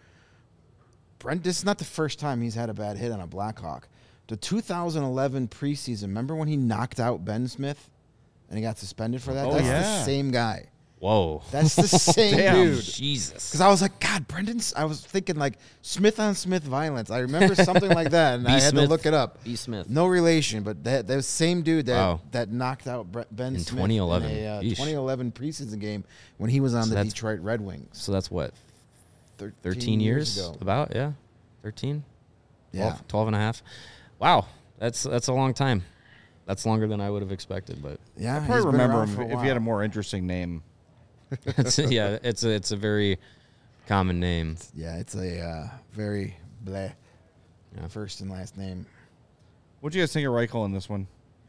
This is not the first time he's had a bad hit on a Blackhawk. The 2011 preseason, remember when he knocked out Ben Smith and he got suspended for that? Oh, That's yeah. the same guy. Whoa. That's the same Damn. dude. Jesus. Because I was like, God, I was thinking like Smith on Smith violence. I remember something like that, and I had to Smith. look it up. B. Smith. No relation, but that same dude Wow. that knocked out Ben In Smith 2011. in a Yeesh. 2011 preseason game when he was on the that's- Detroit Red Wings. So that's what, 13 13 years? ago. About, yeah. 13? Yeah. 12 and a half. Wow. That's a long time. That's longer than I would have expected, but Yeah, I he's probably been remember around him for a if he had a while. more interesting name. it's a very common name. Yeah, it's a very bleh Yeah. first and last name. What do you guys think of Reichel in this one?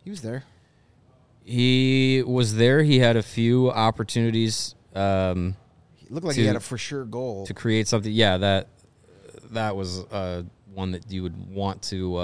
He was there. He was there. He had a few opportunities He looked like he To- had a for sure goal. to create something. Yeah, that was one that you would want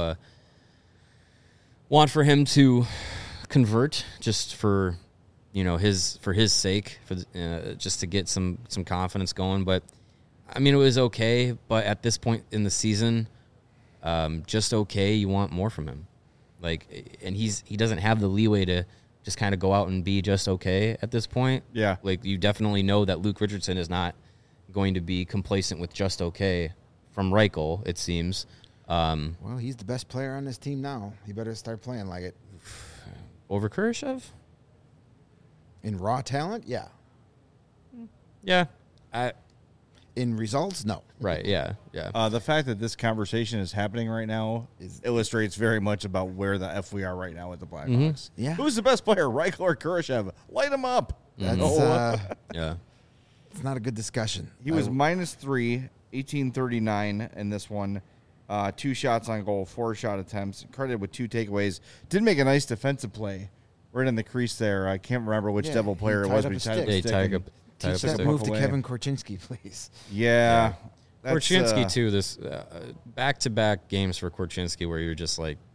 for him to convert, just for his sake, just to get some confidence going. But I mean, it was okay. But at this point in the season, just okay. You want more from him, and he doesn't have the leeway to just kind of go out and be just okay at this point. Yeah. You definitely know that Luke Richardson is not going to be complacent with just okay from Reichel, it seems. Well, he's the best player on this team now. He better start playing like it. Over Kurashev? In raw talent, yeah. Yeah. In results, no. Right, yeah. The fact that this conversation is happening right now illustrates very much about where the F we are right now with the Blackhawks. Yeah. Who's the best player, Reichel or Kurashev? Light him up. That's Yeah. it's not a good discussion. He was -3, 1839 in this one. 2 shots on goal, 4 shot attempts, credited with 2 takeaways. Did make a nice defensive play right in the crease there. I can't remember which Yeah, Devil player he it was, tied but up he a tied up stick. a They stick tied and- up Teach that stick move to away. Kevin Korchinski, please. Yeah. that's, Korchinski, too. This back-to-back games for Korchinski where you're just like,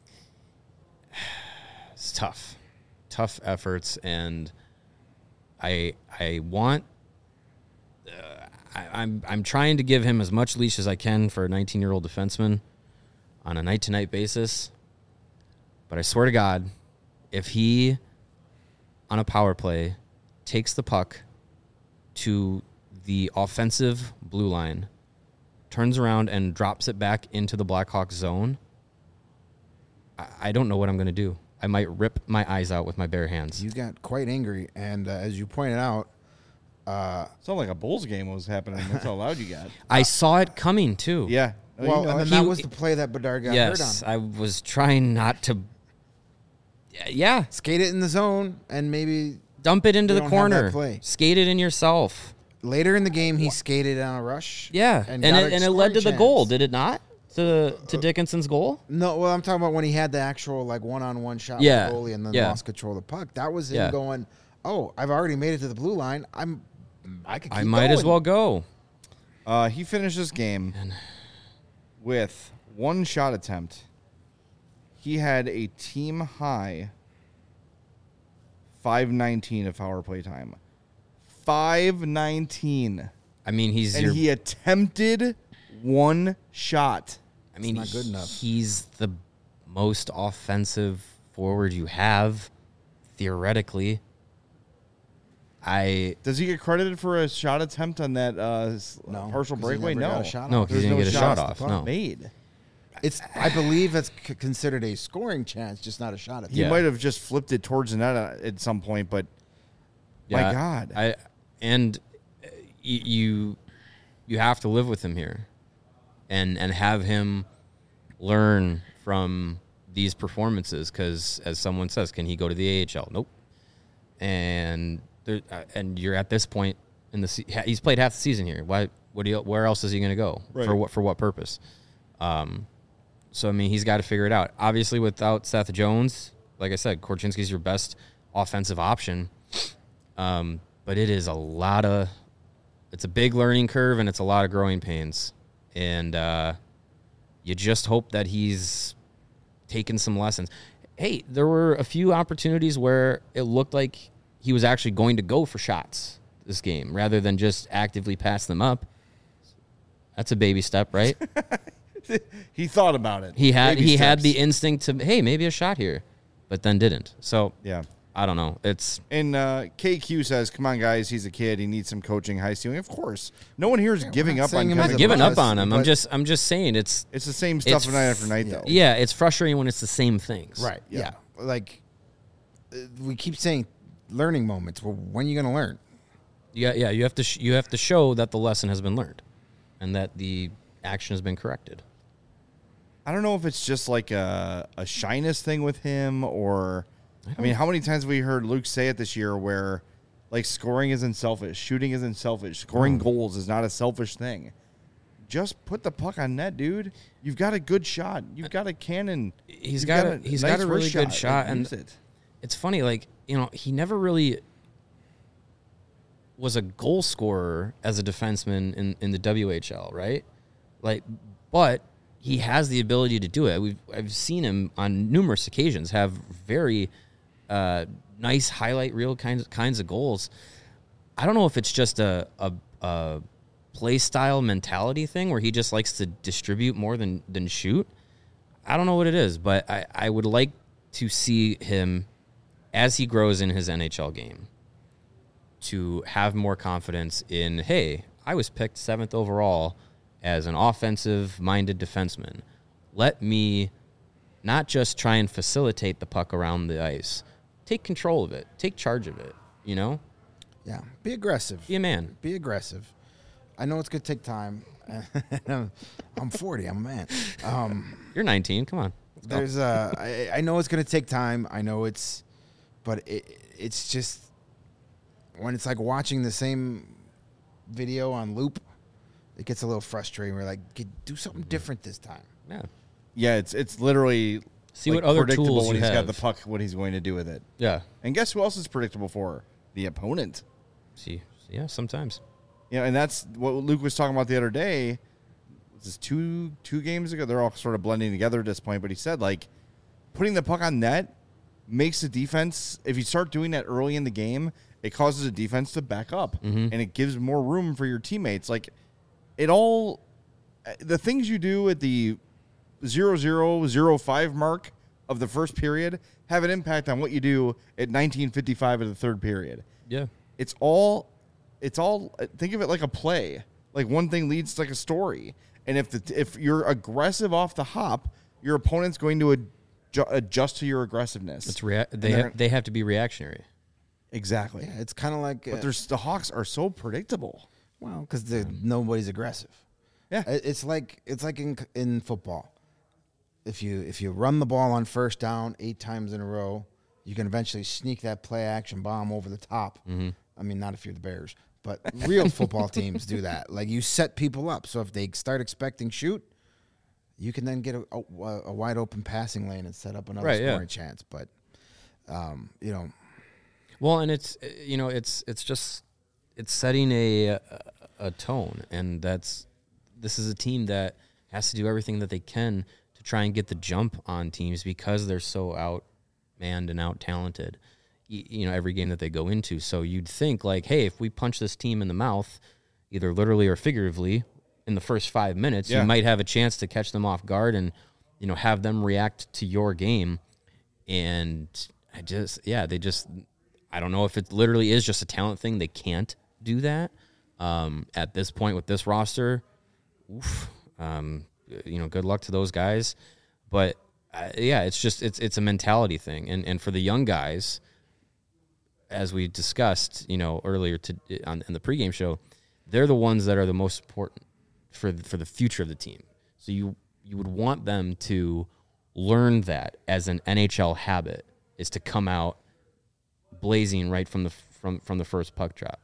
it's tough. Tough efforts, and I want... I'm trying to give him as much leash as I can for a 19-year-old defenseman on a night-to-night basis. But I swear to God, if he, on a power play, takes the puck to the offensive blue line, turns around and drops it back into the Blackhawks zone, I don't know what I'm going to do. I might rip my eyes out with my bare hands. You got quite angry, and as you pointed out, Sounded like a Bulls game was happening. That's how loud you got. I saw it coming, too. Yeah. well, You know and then it. that was the play that Bedard got hurt Yes, on. I was trying not to... Yeah, Skate it in the zone, and maybe dump it into You the don't have that corner. play. Skate it in yourself. later in the game he skated on a rush. Yeah, and, and got it a led to the scoring goal, chance. did it not? To Dickinson's goal? No, well, I'm talking about when he had the actual one-on-one shot Yeah, with the goalie and then yeah. lost control of the puck. That was him Yeah. going, "Oh, I've already made it to the blue line. I could. Keep I might as going." well go. He finished this game with 1 shot attempt. He had a team high 5:19 of power play time. 5:19. I mean, he's And your... he attempted 1 shot. I mean, not good enough. He's the most offensive forward you have, theoretically. Does he get credited for a shot attempt on that No, partial 'cause he breakaway? never got No. a shot No, off. because he There's didn't no get a shot shots off. the No. puck made. I believe that's considered a scoring chance, just not a shot at. He Yeah. might have just flipped it towards the net at some point, but my God. You have to live with him here, and have him learn from these performances. Because as someone says, can he go to the AHL? Nope. And you're at this point in the he's played half the season here. Where else is he going to go? Right. For what purpose? So I mean, he's got to figure it out. Obviously, without Seth Jones, like I said, Korchinski's your best offensive option. But it is it's a big learning curve and it's a lot of growing pains. And you just hope that he's taken some lessons. Hey, there were a few opportunities where it looked like he was actually going to go for shots this game rather than just actively pass them up. That's a baby step, right? He thought about it. He had Baby had the steps. instinct to, hey, maybe a shot here, but then didn't. So Yeah. I don't know. It's And KQ says, "Come on, guys. He's a kid. He needs some coaching, high ceiling. Of course, no one here is giving not up on saying him Kevin. as a giving bust, up on him. but- I'm just saying it's It's the same stuff It's night after night, though. yeah, it's frustrating when it's the same things. Right. Yeah. Yeah. Like we keep saying, learning moments. Well, when are you going to learn? Yeah. You have to show that the lesson has been learned, and that the action has been corrected. I don't know if it's just like a shyness thing with him, or I mean, how many times have we heard Luke say it this year where like scoring isn't selfish, shooting isn't selfish, scoring goals is not a selfish thing. just put the puck on net, dude. You've got a good shot. You've got a cannon. He's got a really wrist good shot, Like, and use it. it's funny, like, he never really was a goal scorer as a defenseman in the WHL, right? Like, but he has the ability to do it. I've seen him on numerous occasions have very nice highlight reel kinds of goals. I don't know if it's just a play style mentality thing where he just likes to distribute more than shoot. I don't know what it is, but I would like to see him, as he grows in his NHL game, to have more confidence in, hey, I was picked 7th overall as an offensive-minded defenseman. Let me not just try and facilitate the puck around the ice. Take control of it. Take charge of it, Yeah, be aggressive. Be a man. Be aggressive. I know it's going to take time. I'm 40. I'm a man. You're 19. Come on. There's I know it's going to take time. I know but it's just when it's like watching the same video on loop, it gets a little frustrating. We're like, do something different this time. Yeah. Yeah, it's literally See what other predictable tools when you he's got have. the puck, what he's going to do with it. Yeah. And guess who else is predictable for? The opponent. See. Yeah, sometimes. And that's what Luke was talking about the other day. This is two games ago. They're all sort of blending together at this point. But he said, like, putting the puck on net makes the defense, if you start doing that early in the game, it causes the defense to back up. And it gives more room for your teammates. Like, the things you do at the 0-0-0-5 mark of the first period have an impact on what you do at 19:55 of the third period. Yeah. It's all think of it like a play. Like one thing leads to like a story. And if you're aggressive off the hop, your opponent's going to adjust to your aggressiveness. It's they have to be reactionary. Exactly. Yeah, it's kind of like But the Hawks are so predictable. well, because nobody's aggressive. Yeah. It's like in football. If you run the ball on first down 8 times in a row, you can eventually sneak that play action bomb over the top. I mean, not if you're the Bears, but real football teams do that. Like you set people up, so if they start expecting shoot, you can then get a wide open passing lane and set up another scoring chance. But Well, and it's setting a tone, and this is a team that has to do everything that they can to try and get the jump on teams because they're so outmanned and out talented. Every game that they go into. So you'd think like, hey, if we punch this team in the mouth, either literally or figuratively, in the first 5 minutes, you might have a chance to catch them off guard and have them react to your game. And I don't know if it literally is just a talent thing. They can't do that at this point with this roster. Good luck to those guys. But it's a mentality thing. And for the young guys, as we discussed, earlier in the pregame show, they're the ones that are the most important for the future of the team. So you would want them to learn that as an NHL habit is to come out blazing right from the first puck drop.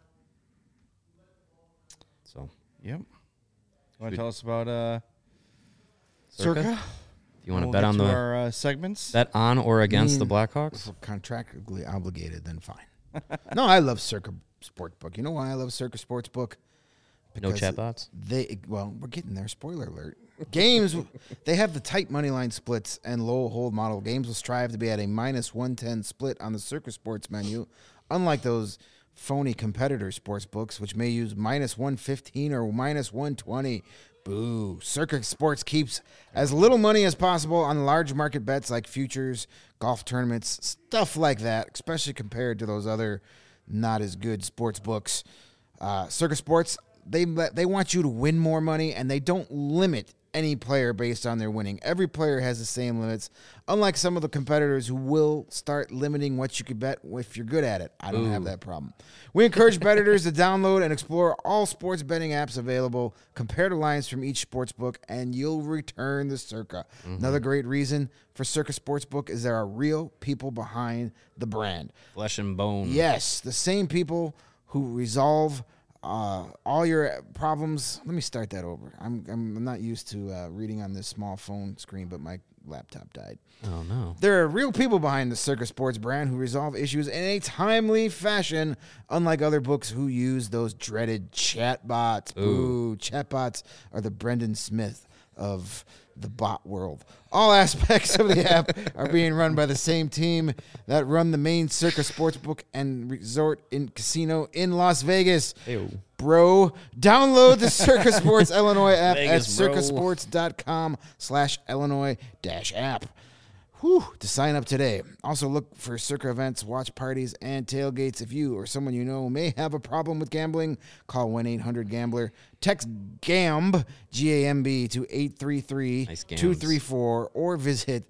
So, Yep. You want to tell us about Circa? Circa? You want to We'll bet get on to the our segments? bet on or against the Blackhawks? if we're contractually obligated, then fine. No, I love Circa Sportsbook. You know why I love Circa Sportsbook? No chatbots? We're getting there. Spoiler alert. Games, they have the tight money line splits and low hold model. Games will strive to be at a -110 split on the Circa Sports menu, unlike those phony competitor sports books, which may use -115 or -120. Boo. Circa Sports keeps as little money as possible on large market bets like futures, golf tournaments, stuff like that, especially compared to those other not as good sports books. Circa Sports, they want you to win more money, and they don't limit any player based on their winning. Every player has the same limits, unlike some of the competitors who will start limiting what you could bet if you're good at it. I don't have that problem. We encourage bettors to download and explore all sports betting apps available, compare the lines from each sports book, and you'll return to Circa. Another great reason for Circa Sportsbook is there are real people behind the brand. Flesh and bone. Yes, the same people who resolve all your problems. Let me start that over. I'm not used to reading on this small phone screen, but my laptop died. Oh, no. There are real people behind the Circa Sports brand who resolve issues in a timely fashion, unlike other books who use those dreaded chatbots. Ooh, chatbots are the Brendan Smith of the bot world. All aspects of the app are being run by the same team that run the main Circa Sportsbook and resort in casino in Las Vegas. Ew. Bro, download the Circa Sports Illinois app Vegas, at bro. circasports.com/Illinois-app. To sign up today. Also look for Circa events, watch parties, and tailgates. If you or someone you know may have a problem with gambling, call 1-800-GAMBLER. Text GAMB, G-A-M-B, to 833-234, or visit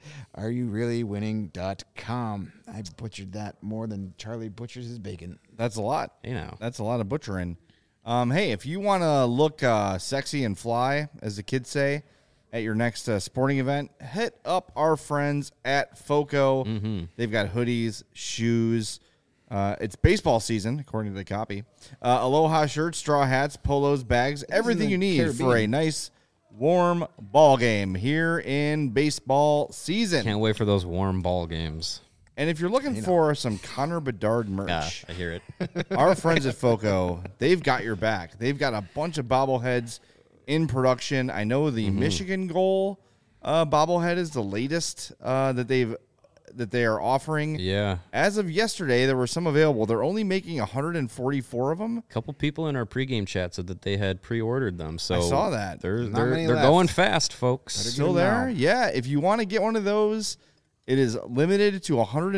areyoureallywinning.com. I butchered that more than Charlie butchers his bacon. That's a lot. You know. That's a lot of butchering. Hey, if you want to look sexy and fly, as the kids say, at your next sporting event, hit up our friends at FOCO. They've got hoodies, shoes. It's baseball season, according to the copy. Aloha shirts, straw hats, polos, bags, everything you need for a nice, warm ball game here in baseball season. Can't wait for those warm ball games. And if you're looking for some Connor Bedard merch, Yeah, I hear it. our friends at FOCO, they've got your back. They've got a bunch of bobbleheads in production. I know the Michigan Goal bobblehead is the latest that they are offering. Yeah. As of yesterday, there were some available. They're only making 144 of them. A couple people in our pregame chat said that they had pre-ordered them. So I saw that. They're many they're left. going fast, folks. Still there? Yeah. If you want to get one of those, it is limited to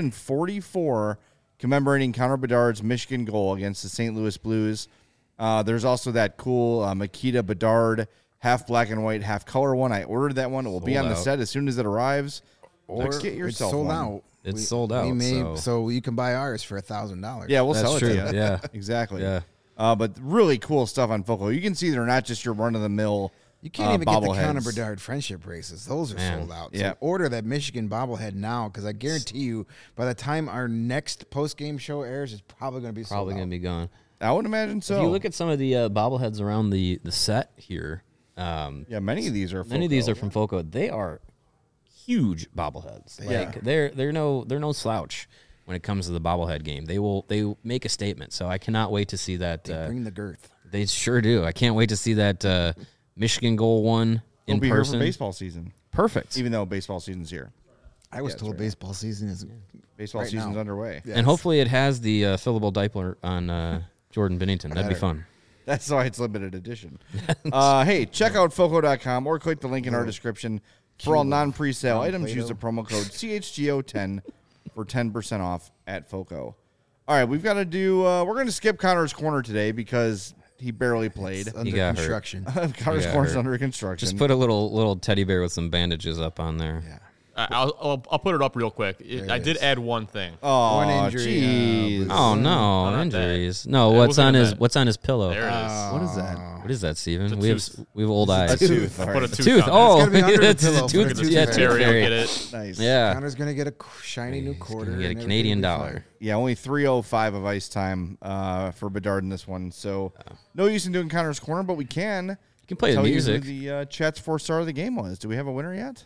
144, commemorating Connor Bedard's Michigan Goal against the St. Louis Blues. There's also that cool Makita Bedard half black and white, half color one. I ordered that one. It will be on the out. set as soon as it arrives. Or Get yourself it's sold one. out. It's sold out, So you can buy ours for $1,000. Yeah, we'll That's sell it true. to you. Yeah. Exactly. Yeah. But really cool stuff on FOCO. You can see they're not just your run-of-the-mill You can't even get the Connor bobbleheads. Bedard friendship braces. Those are Man. sold out. Yeah. So order that Michigan bobblehead now, because I guarantee you, by the time our next post-game show airs, it's probably going to be sold Probably out. going to be gone. I would imagine so. If you look at some of the bobbleheads around the set here, yeah, many of these are many of these are from FOCO. They are huge bobbleheads. Like they're no slouch when it comes to the bobblehead game. They make a statement. So I cannot wait to see that. Bring the girth. They sure do. I can't wait to see that Michigan Goal one They'll in be person. here for baseball season, Perfect. even though baseball season's here. I was that's told right. baseball season is Baseball Right season's now. underway. Yes. And hopefully it has the fillable diaper on Jordan Bennington. That'd be fun. That's why it's limited edition. Hey, check out FOCO.com or click the link in our description. For all non-presale items, use the promo code CHGO10 for 10% off at FOCO. All right, we've got to do we're going to skip Connor's Corner today because he barely played. under got hurt. construction. Connor's got Corner's hurt. under construction. Just put a little teddy bear with some bandages up on there. Yeah. I'll put it up real quick. I did add one thing. Oh, One injury, jeez. Oh no, Not injuries. No, It what's wasn't on a his bad- what's on his pillow? There it is. What is that? What is that, Steven? a We have tooth. we have old eyes. A tooth. All Put a right. tooth. Tooth. on Oh, gotta be under the that's pillow a for tooth. the tooth Yeah, fairy. tooth Terry will fairy. get it. Nice. Yeah. Connor's going to get a shiny new quarter. Gonna get a and Canadian everything will be dollar. Yeah, only 3:05 of ice time for Bedard in this one. So no use in doing Connor's Corner, but we can. You can play the tell music. you who the Chat's 4-star of the game was. Do we have a winner yet?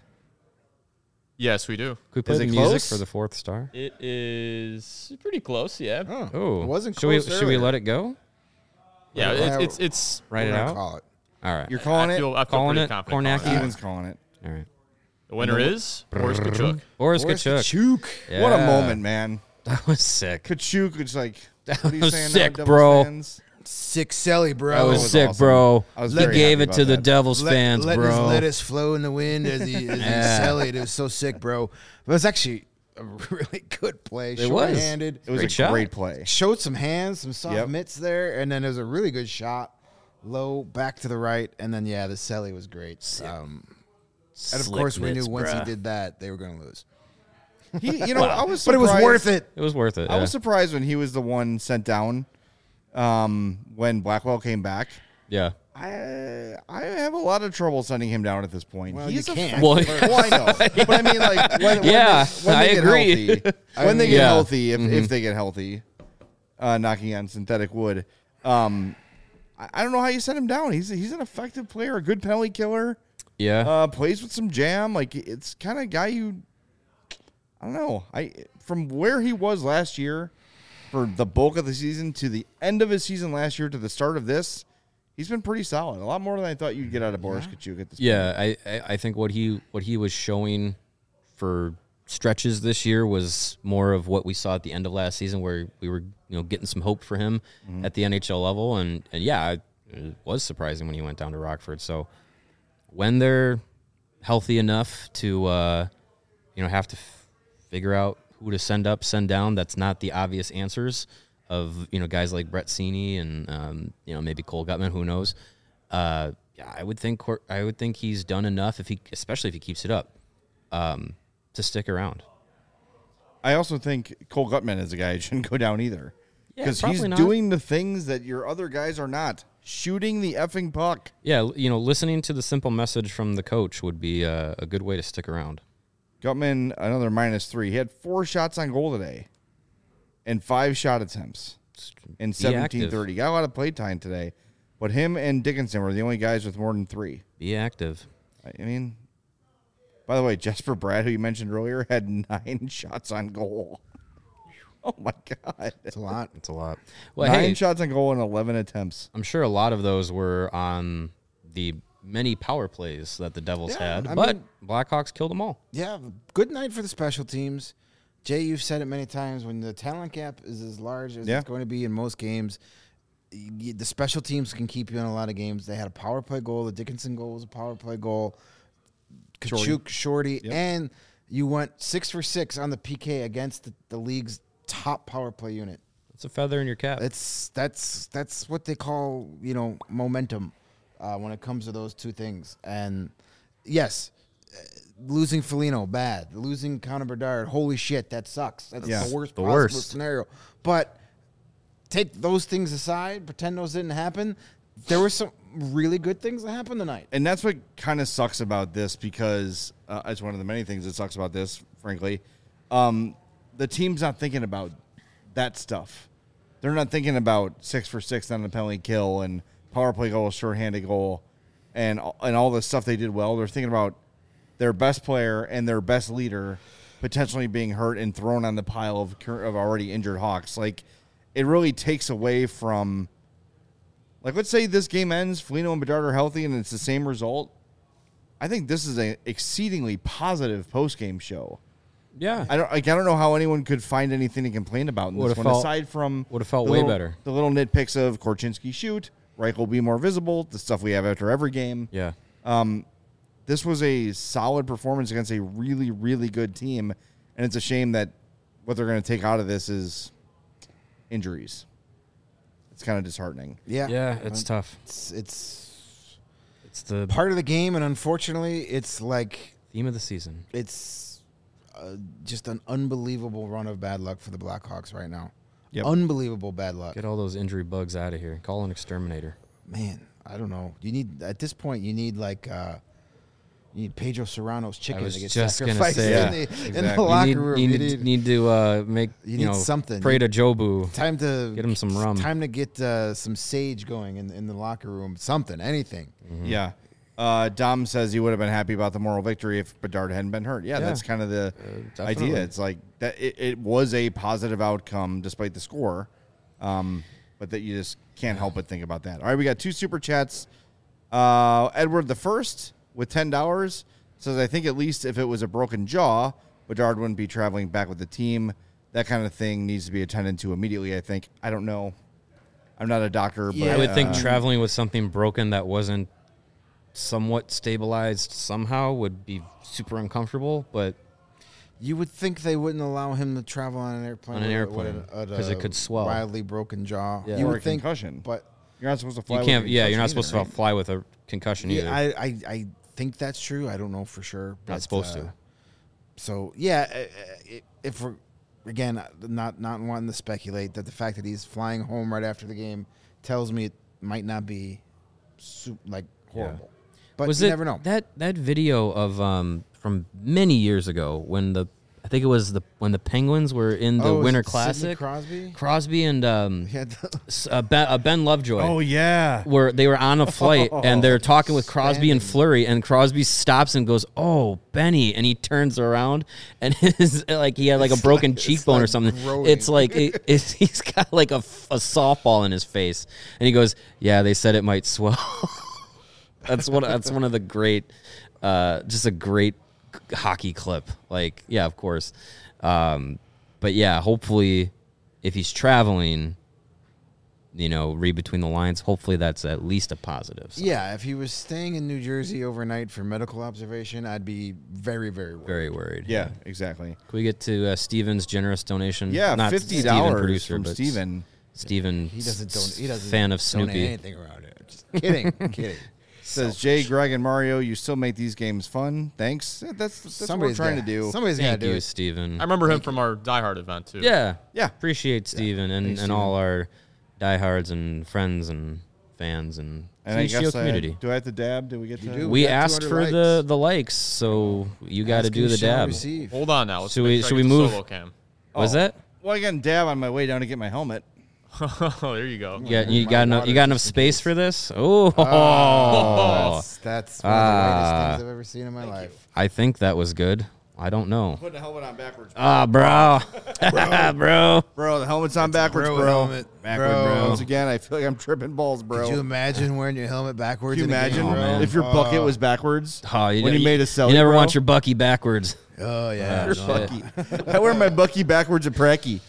Yes, we do. Could we play Is the it music close? for the fourth star? It is pretty close. Yeah. Oh, Oh, it wasn't should we close should we earlier. let it go? Yeah. Yeah, It's. Write it We're gonna out. Call it. All right. You're calling I it? feel Calling pretty it, confident. Kornacki? calling it. Steven's calling it. All right. The winner is Boris Kachuk. Boris Boris Kachuk. Kachuk. What a Yeah. moment, man. That was sick. Kachuk is like, what are you was saying sick, now, Devils bro. fans? Sick Selly, bro. That was was sick, awesome. bro. I was He very gave happy it to about the that. Devils fans, letting his bro. lettuce flow in the wind as he sellied. It was so sick, bro. But it was actually a really good play. It was. Short-handed. It was Great a shot. great play. Showed some hands, some soft Yep. mitts there, and then there was a really good shot. Low, back to the right, and then, yeah, the Selly was great. And, of course, we knew once he did that, they were going to lose. He, you know, I was But it surprised. was worth it. It was worth it. I Yeah. was surprised when he was the one sent down when Blackwell came back. yeah. I have a lot of trouble sending him down at this point. Well, He's you a can't. Well, well, I know, but I mean, like, when Yeah, when I they get agree. healthy, when they get Yeah. healthy, if they get healthy, knocking on synthetic wood, I don't know how you set him down. He's an effective player, a good penalty killer. Yeah. Plays with some jam. Like, it's kind of guy you, I don't know. From where he was last year for the bulk of the season to the end of his season last year to the start of this, he's been pretty solid. A lot more than I thought you'd get out of Boris Katchouk at this point. Yeah, I think what he was showing for stretches this year was more of what we saw at the end of last season, where we were getting some hope for him at the NHL level, and yeah, it was surprising when he went down to Rockford. So when they're healthy enough to have to figure out who to send up, send down, that's not the obvious answers of guys like Brett Seney and maybe Cole Guttman, who knows. I would think he's done enough especially if he keeps it up, to stick around. I also think Cole Guttman is a guy who shouldn't go down either, because he's not. doing the things that your other guys are not, shooting the effing puck. Yeah, listening to the simple message from the coach would be a good way to stick around. Guttman, another -3. He had 4 shots on goal today and 5 shot attempts in 17:30. Got a lot of play time today, but him and Dickinson were the only guys with more than 3. Be active. I mean, by the way, Jesper Bratt, who you mentioned earlier, had 9 shots on goal. Oh, my God. It's a lot. It's a lot. Well, 9 shots on goal and 11 attempts. I'm sure a lot of those were on the many power plays that the Devils had, I but mean, Blackhawks killed them all. Yeah, good night for the special teams. Jay, you've said it many times, when the talent gap is as large as it's going to be in most games, the special teams can keep you in a lot of games. They had a power play goal. The Dickinson goal was a power play goal. Katchouk, Shorty, and you went 6 for 6 on the PK against the league's top power play unit. It's a feather in your cap. That's what they call momentum when it comes to those two things. And yes, losing Foligno, bad. Losing Connor Bedard, holy shit, that sucks. That's the worst possible scenario. But take those things aside, pretend those didn't happen. There were some really good things that happened tonight. And that's what kind of sucks about this, because it's one of the many things that sucks about this, frankly. The team's not thinking about that stuff. They're not thinking about 6 for 6 on the penalty kill and power play goal, shorthanded goal, and all the stuff they did well. They're thinking about their best player and their best leader potentially being hurt and thrown on the pile of already injured Hawks. Like, it really takes away from, like, let's say this game ends, Foligno and Bedard are healthy, and it's the same result. I think this is an exceedingly positive post-game show. Yeah. I don't know how anyone could find anything to complain about in this one, aside from would have felt way better. The little nitpicks of Korchinski shoot, Reich will be more visible, the stuff we have after every game. Yeah. This was a solid performance against a really, really good team, and it's a shame that what they're going to take out of this is injuries. It's kind of disheartening. Yeah, it's tough. It's the part of the game, and unfortunately, it's like theme of the season. It's just an unbelievable run of bad luck for the Blackhawks right now. Yep. Unbelievable bad luck. Get all those injury bugs out of here. Call an exterminator. Man, I don't know. At this point, you need you need Pedro Serrano's chicken to get sacrificed in the locker room. You need to make something. Pray to Jobu. Time to get him some rum. Time to get some sage going in the locker room. Something, anything. Mm-hmm. Yeah. Dom says he would have been happy about the moral victory if Bedard hadn't been hurt. Yeah, that's kind of the idea. It's like that. It was a positive outcome despite the score, but that you just can't help but think about that. All right, we got 2 super chats. Edward the First with $10 says, I think at least if it was a broken jaw, Bedard wouldn't be traveling back with the team. That kind of thing needs to be attended to immediately, I think. I don't know. I'm not a doctor, but I would think traveling with something broken that wasn't somewhat stabilized somehow would be super uncomfortable, but you would think they wouldn't allow him to travel on an airplane because it could swell. Wildly broken jaw. Yeah. You or would a think, concussion, but you're not supposed to fly. You're not supposed to fly with a concussion either. I think that's true. I don't know for sure. But, not supposed to. So yeah, if we're again not wanting to speculate, that the fact that he's flying home right after the game tells me it might not be horrible. But you never know. That video of from many years ago when I think it was when the Penguins were in the Winter Sidney Classic. Crosby And Ben Lovejoy. Oh yeah. Where they were on a flight and they're talking with Crosby and Fleury, and Crosby stops and goes, "Oh, Benny," and he turns around and his like he had like a broken cheekbone or something. growing. It's like he's got like a softball in his face, and he goes, "Yeah, they said it might swell." That's one of the great, just a great hockey clip. Like, yeah, of course, but yeah, hopefully, if he's traveling, read between the lines. Hopefully, that's at least a positive. So. Yeah, if he was staying in New Jersey overnight for medical observation, I'd be very, very worried. Very worried. Yeah, exactly. Can we get to Steven's generous donation? Yeah, Not $50 Steven, producer, from but Steven. Steven, He doesn't fan of donate Snoopy. anything around here. Just kidding, kidding. Says Jay, Greg, and Mario, you still make these games fun. Thanks. That's what we're trying to do. Somebody's got to Thank do you, it. Steven. I remember him from our Die Hard event too. Yeah. Yeah. Appreciate Steven and all our diehards and friends and fans and And I THGO guess community. do I have to dab? Did we get to? do. We got asked 200 for the likes, so you got to Ask do you the shall dab. receive. Hold on now. Let's Should make we- sure I should get we the move? solo cam. Was that? Well, I got a dab on my way down to get my helmet. Oh, there you go. You my got enough. water You got enough just in space case. for this? Oh, That's one of the whitest things I've ever seen in my life. I think that was good. I don't know. Putting the helmet on backwards. Bro, bro. Bro, the helmet's on backwards, bro bro. helmet, Backward, bro. Once again, I feel like I'm tripping balls, bro. Could you imagine wearing your helmet backwards? Can you in a game, imagine bro? if your bucket was backwards? Oh, when you made a celly, you never bro? want your Bucky backwards. Oh yeah. Your no. Bucky. I wear my Bucky backwards at Pracky.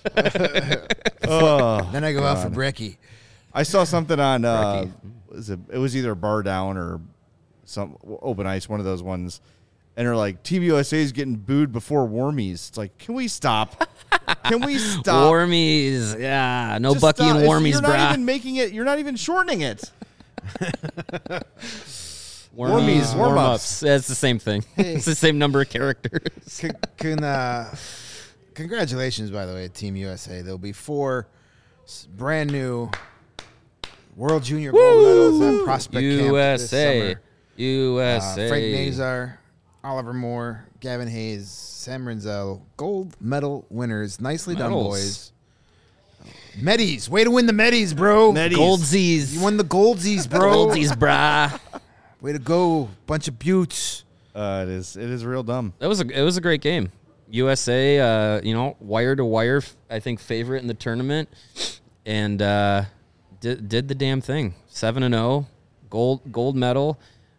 Oh, Then I go out for brekkie. I saw something on it was either Bar Down or some Open Ice, one of those ones, and they're like, Team USA is getting booed before Warmies. It's like, can we stop? Can we stop? Warmies, yeah, no Just Bucky stop. and Warmies, You're not brah. even making it. You're not even shortening it. Warmies, warm-ups. warm-ups. That's the same thing. It's the same number of characters. Congratulations, by the way, Team USA. There'll be 4 brand new World Junior gold medals at Prospect Camp this USA, summer. USA. Frank Nazar, Oliver Moore, Gavin Hayes, Sam Renzel, gold medal winners. Nicely done, Medals. boys. Medis, way to win the Medis, bro. Goldsies. You won the Goldsies, bro. Goldsies, brah. Way to go, bunch of buttes. It is real dumb. It was a great game. USA, wire to wire, I think favorite in the tournament, and did the damn thing. 7-0, gold medal.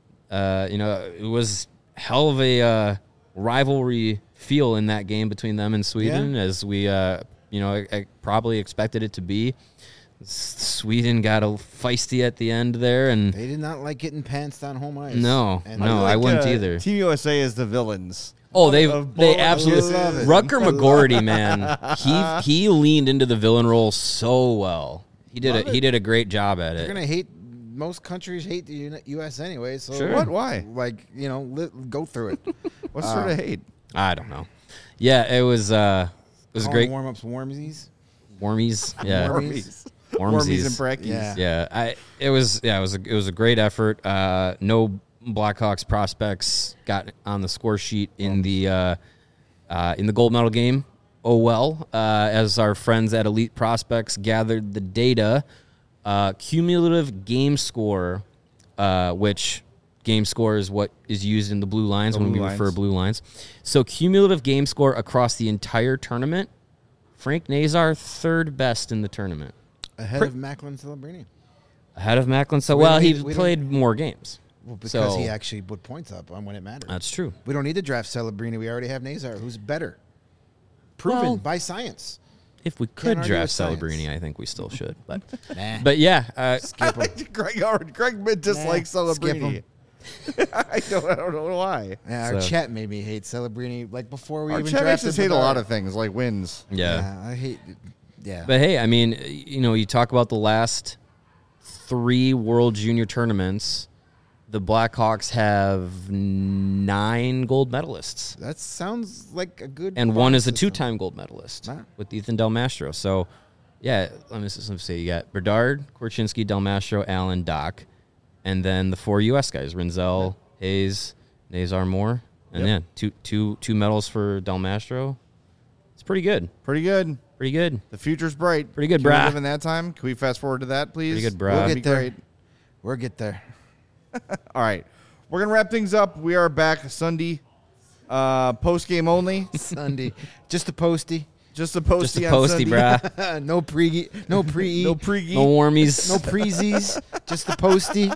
It was hell of a rivalry feel in that game between them and Sweden, as we I probably expected it to be. Sweden got a feisty at the end there, and They did not like getting pantsed on home ice. no, And I wouldn't either. Team USA is the villains. Oh, they Bowling. absolutely I love it. Rutger McGorty, man. He leaned into the villain role so well. He did a great job at They're it. gonna hate. Most countries hate the U.S. anyway. So Sure. What? Why? Like go through it. What sort of hate? I don't know. Yeah, it was great. Warm ups, warmsies. Warmies, yeah, Warmies. Warmies and Warmsies. brackies. Yeah. Yeah, it was a great effort. No Blackhawks prospects got on the score sheet in the gold medal game. Oh well, as our friends at Elite Prospects gathered the data, cumulative game score, which game score is what is used in the blue lines when we refer to blue lines. So cumulative game score across the entire tournament, Frank Nazar third best in the tournament. Ahead of Macklin Celebrini. Ahead of Macklin. So, We well, don't he need- we played more games. Well, because So- he actually put points up on when it mattered. That's true. We don't need to draft Celebrini. We already have Nazar, who's better. Proven Well- by science. If we could argue draft with science. Celebrini, I think we still should. But Nah. but yeah, Skip him. Greg dislikes Skip Celebrini. him. I don't know why. Yeah, our So- chat made me hate Celebrini. Like before we Our even chat makes drafted us hate a Bedard. lot of things, like wins. yeah. I hate. Yeah. But hey, I mean, you talk about the last 3 World Junior tournaments. The Blackhawks have 9 gold medalists, That sounds like a good. and one is a point system. 2-time gold medalist Wow. with Ethan Del Mastro. So, yeah, let me say you got Bedard, Korchinski, Del Mastro, Allen, Doc, and then the 4 U.S. guys: Renzel, Hayes, Nazar, Moore, and Yep. two medals for Del Mastro. It's pretty good. Pretty good. Pretty good. The future's bright. Pretty good, Can we brah. live in that time? Can we fast forward to that, please? Pretty good, brah. That'd We'll be get there. great. We'll get there. All right. We're going to wrap things up. We are back Sunday, post-game only. Sunday. Just a postie. Just a postie Just a on posty, Sunday. brah. No pre. No pre. No pre-geek. No warmies. No preezies. Just a postie.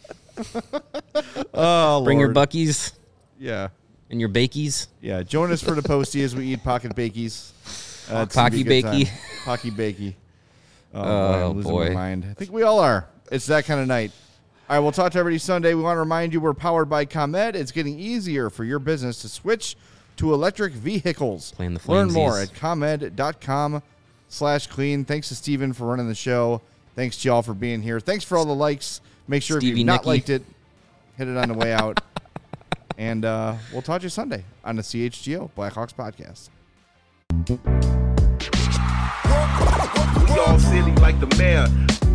Oh, Bring your Lord. buckies Yeah. and your bakies. Yeah. Join us for the postie as we eat pocket bakies. It's gonna Pocky be a good bakey. time. Pocky bakey. Oh, Oh, I'm losing boy. my mind. I think we all are. It's that kind of night. All right, we'll talk to everybody Sunday. We want to remind you we're powered by ComEd. It's getting easier for your business to switch to electric vehicles. Playing the Learn flamesies. more at ComEd.com/clean. Thanks to Steven for running the show. Thanks to y'all for being here. Thanks for all the likes. Make sure if Stevie you've not Nicky. liked it, hit it on the way out. And we'll talk to you Sunday on the CHGO Blackhawks podcast. We all silly like the mayor.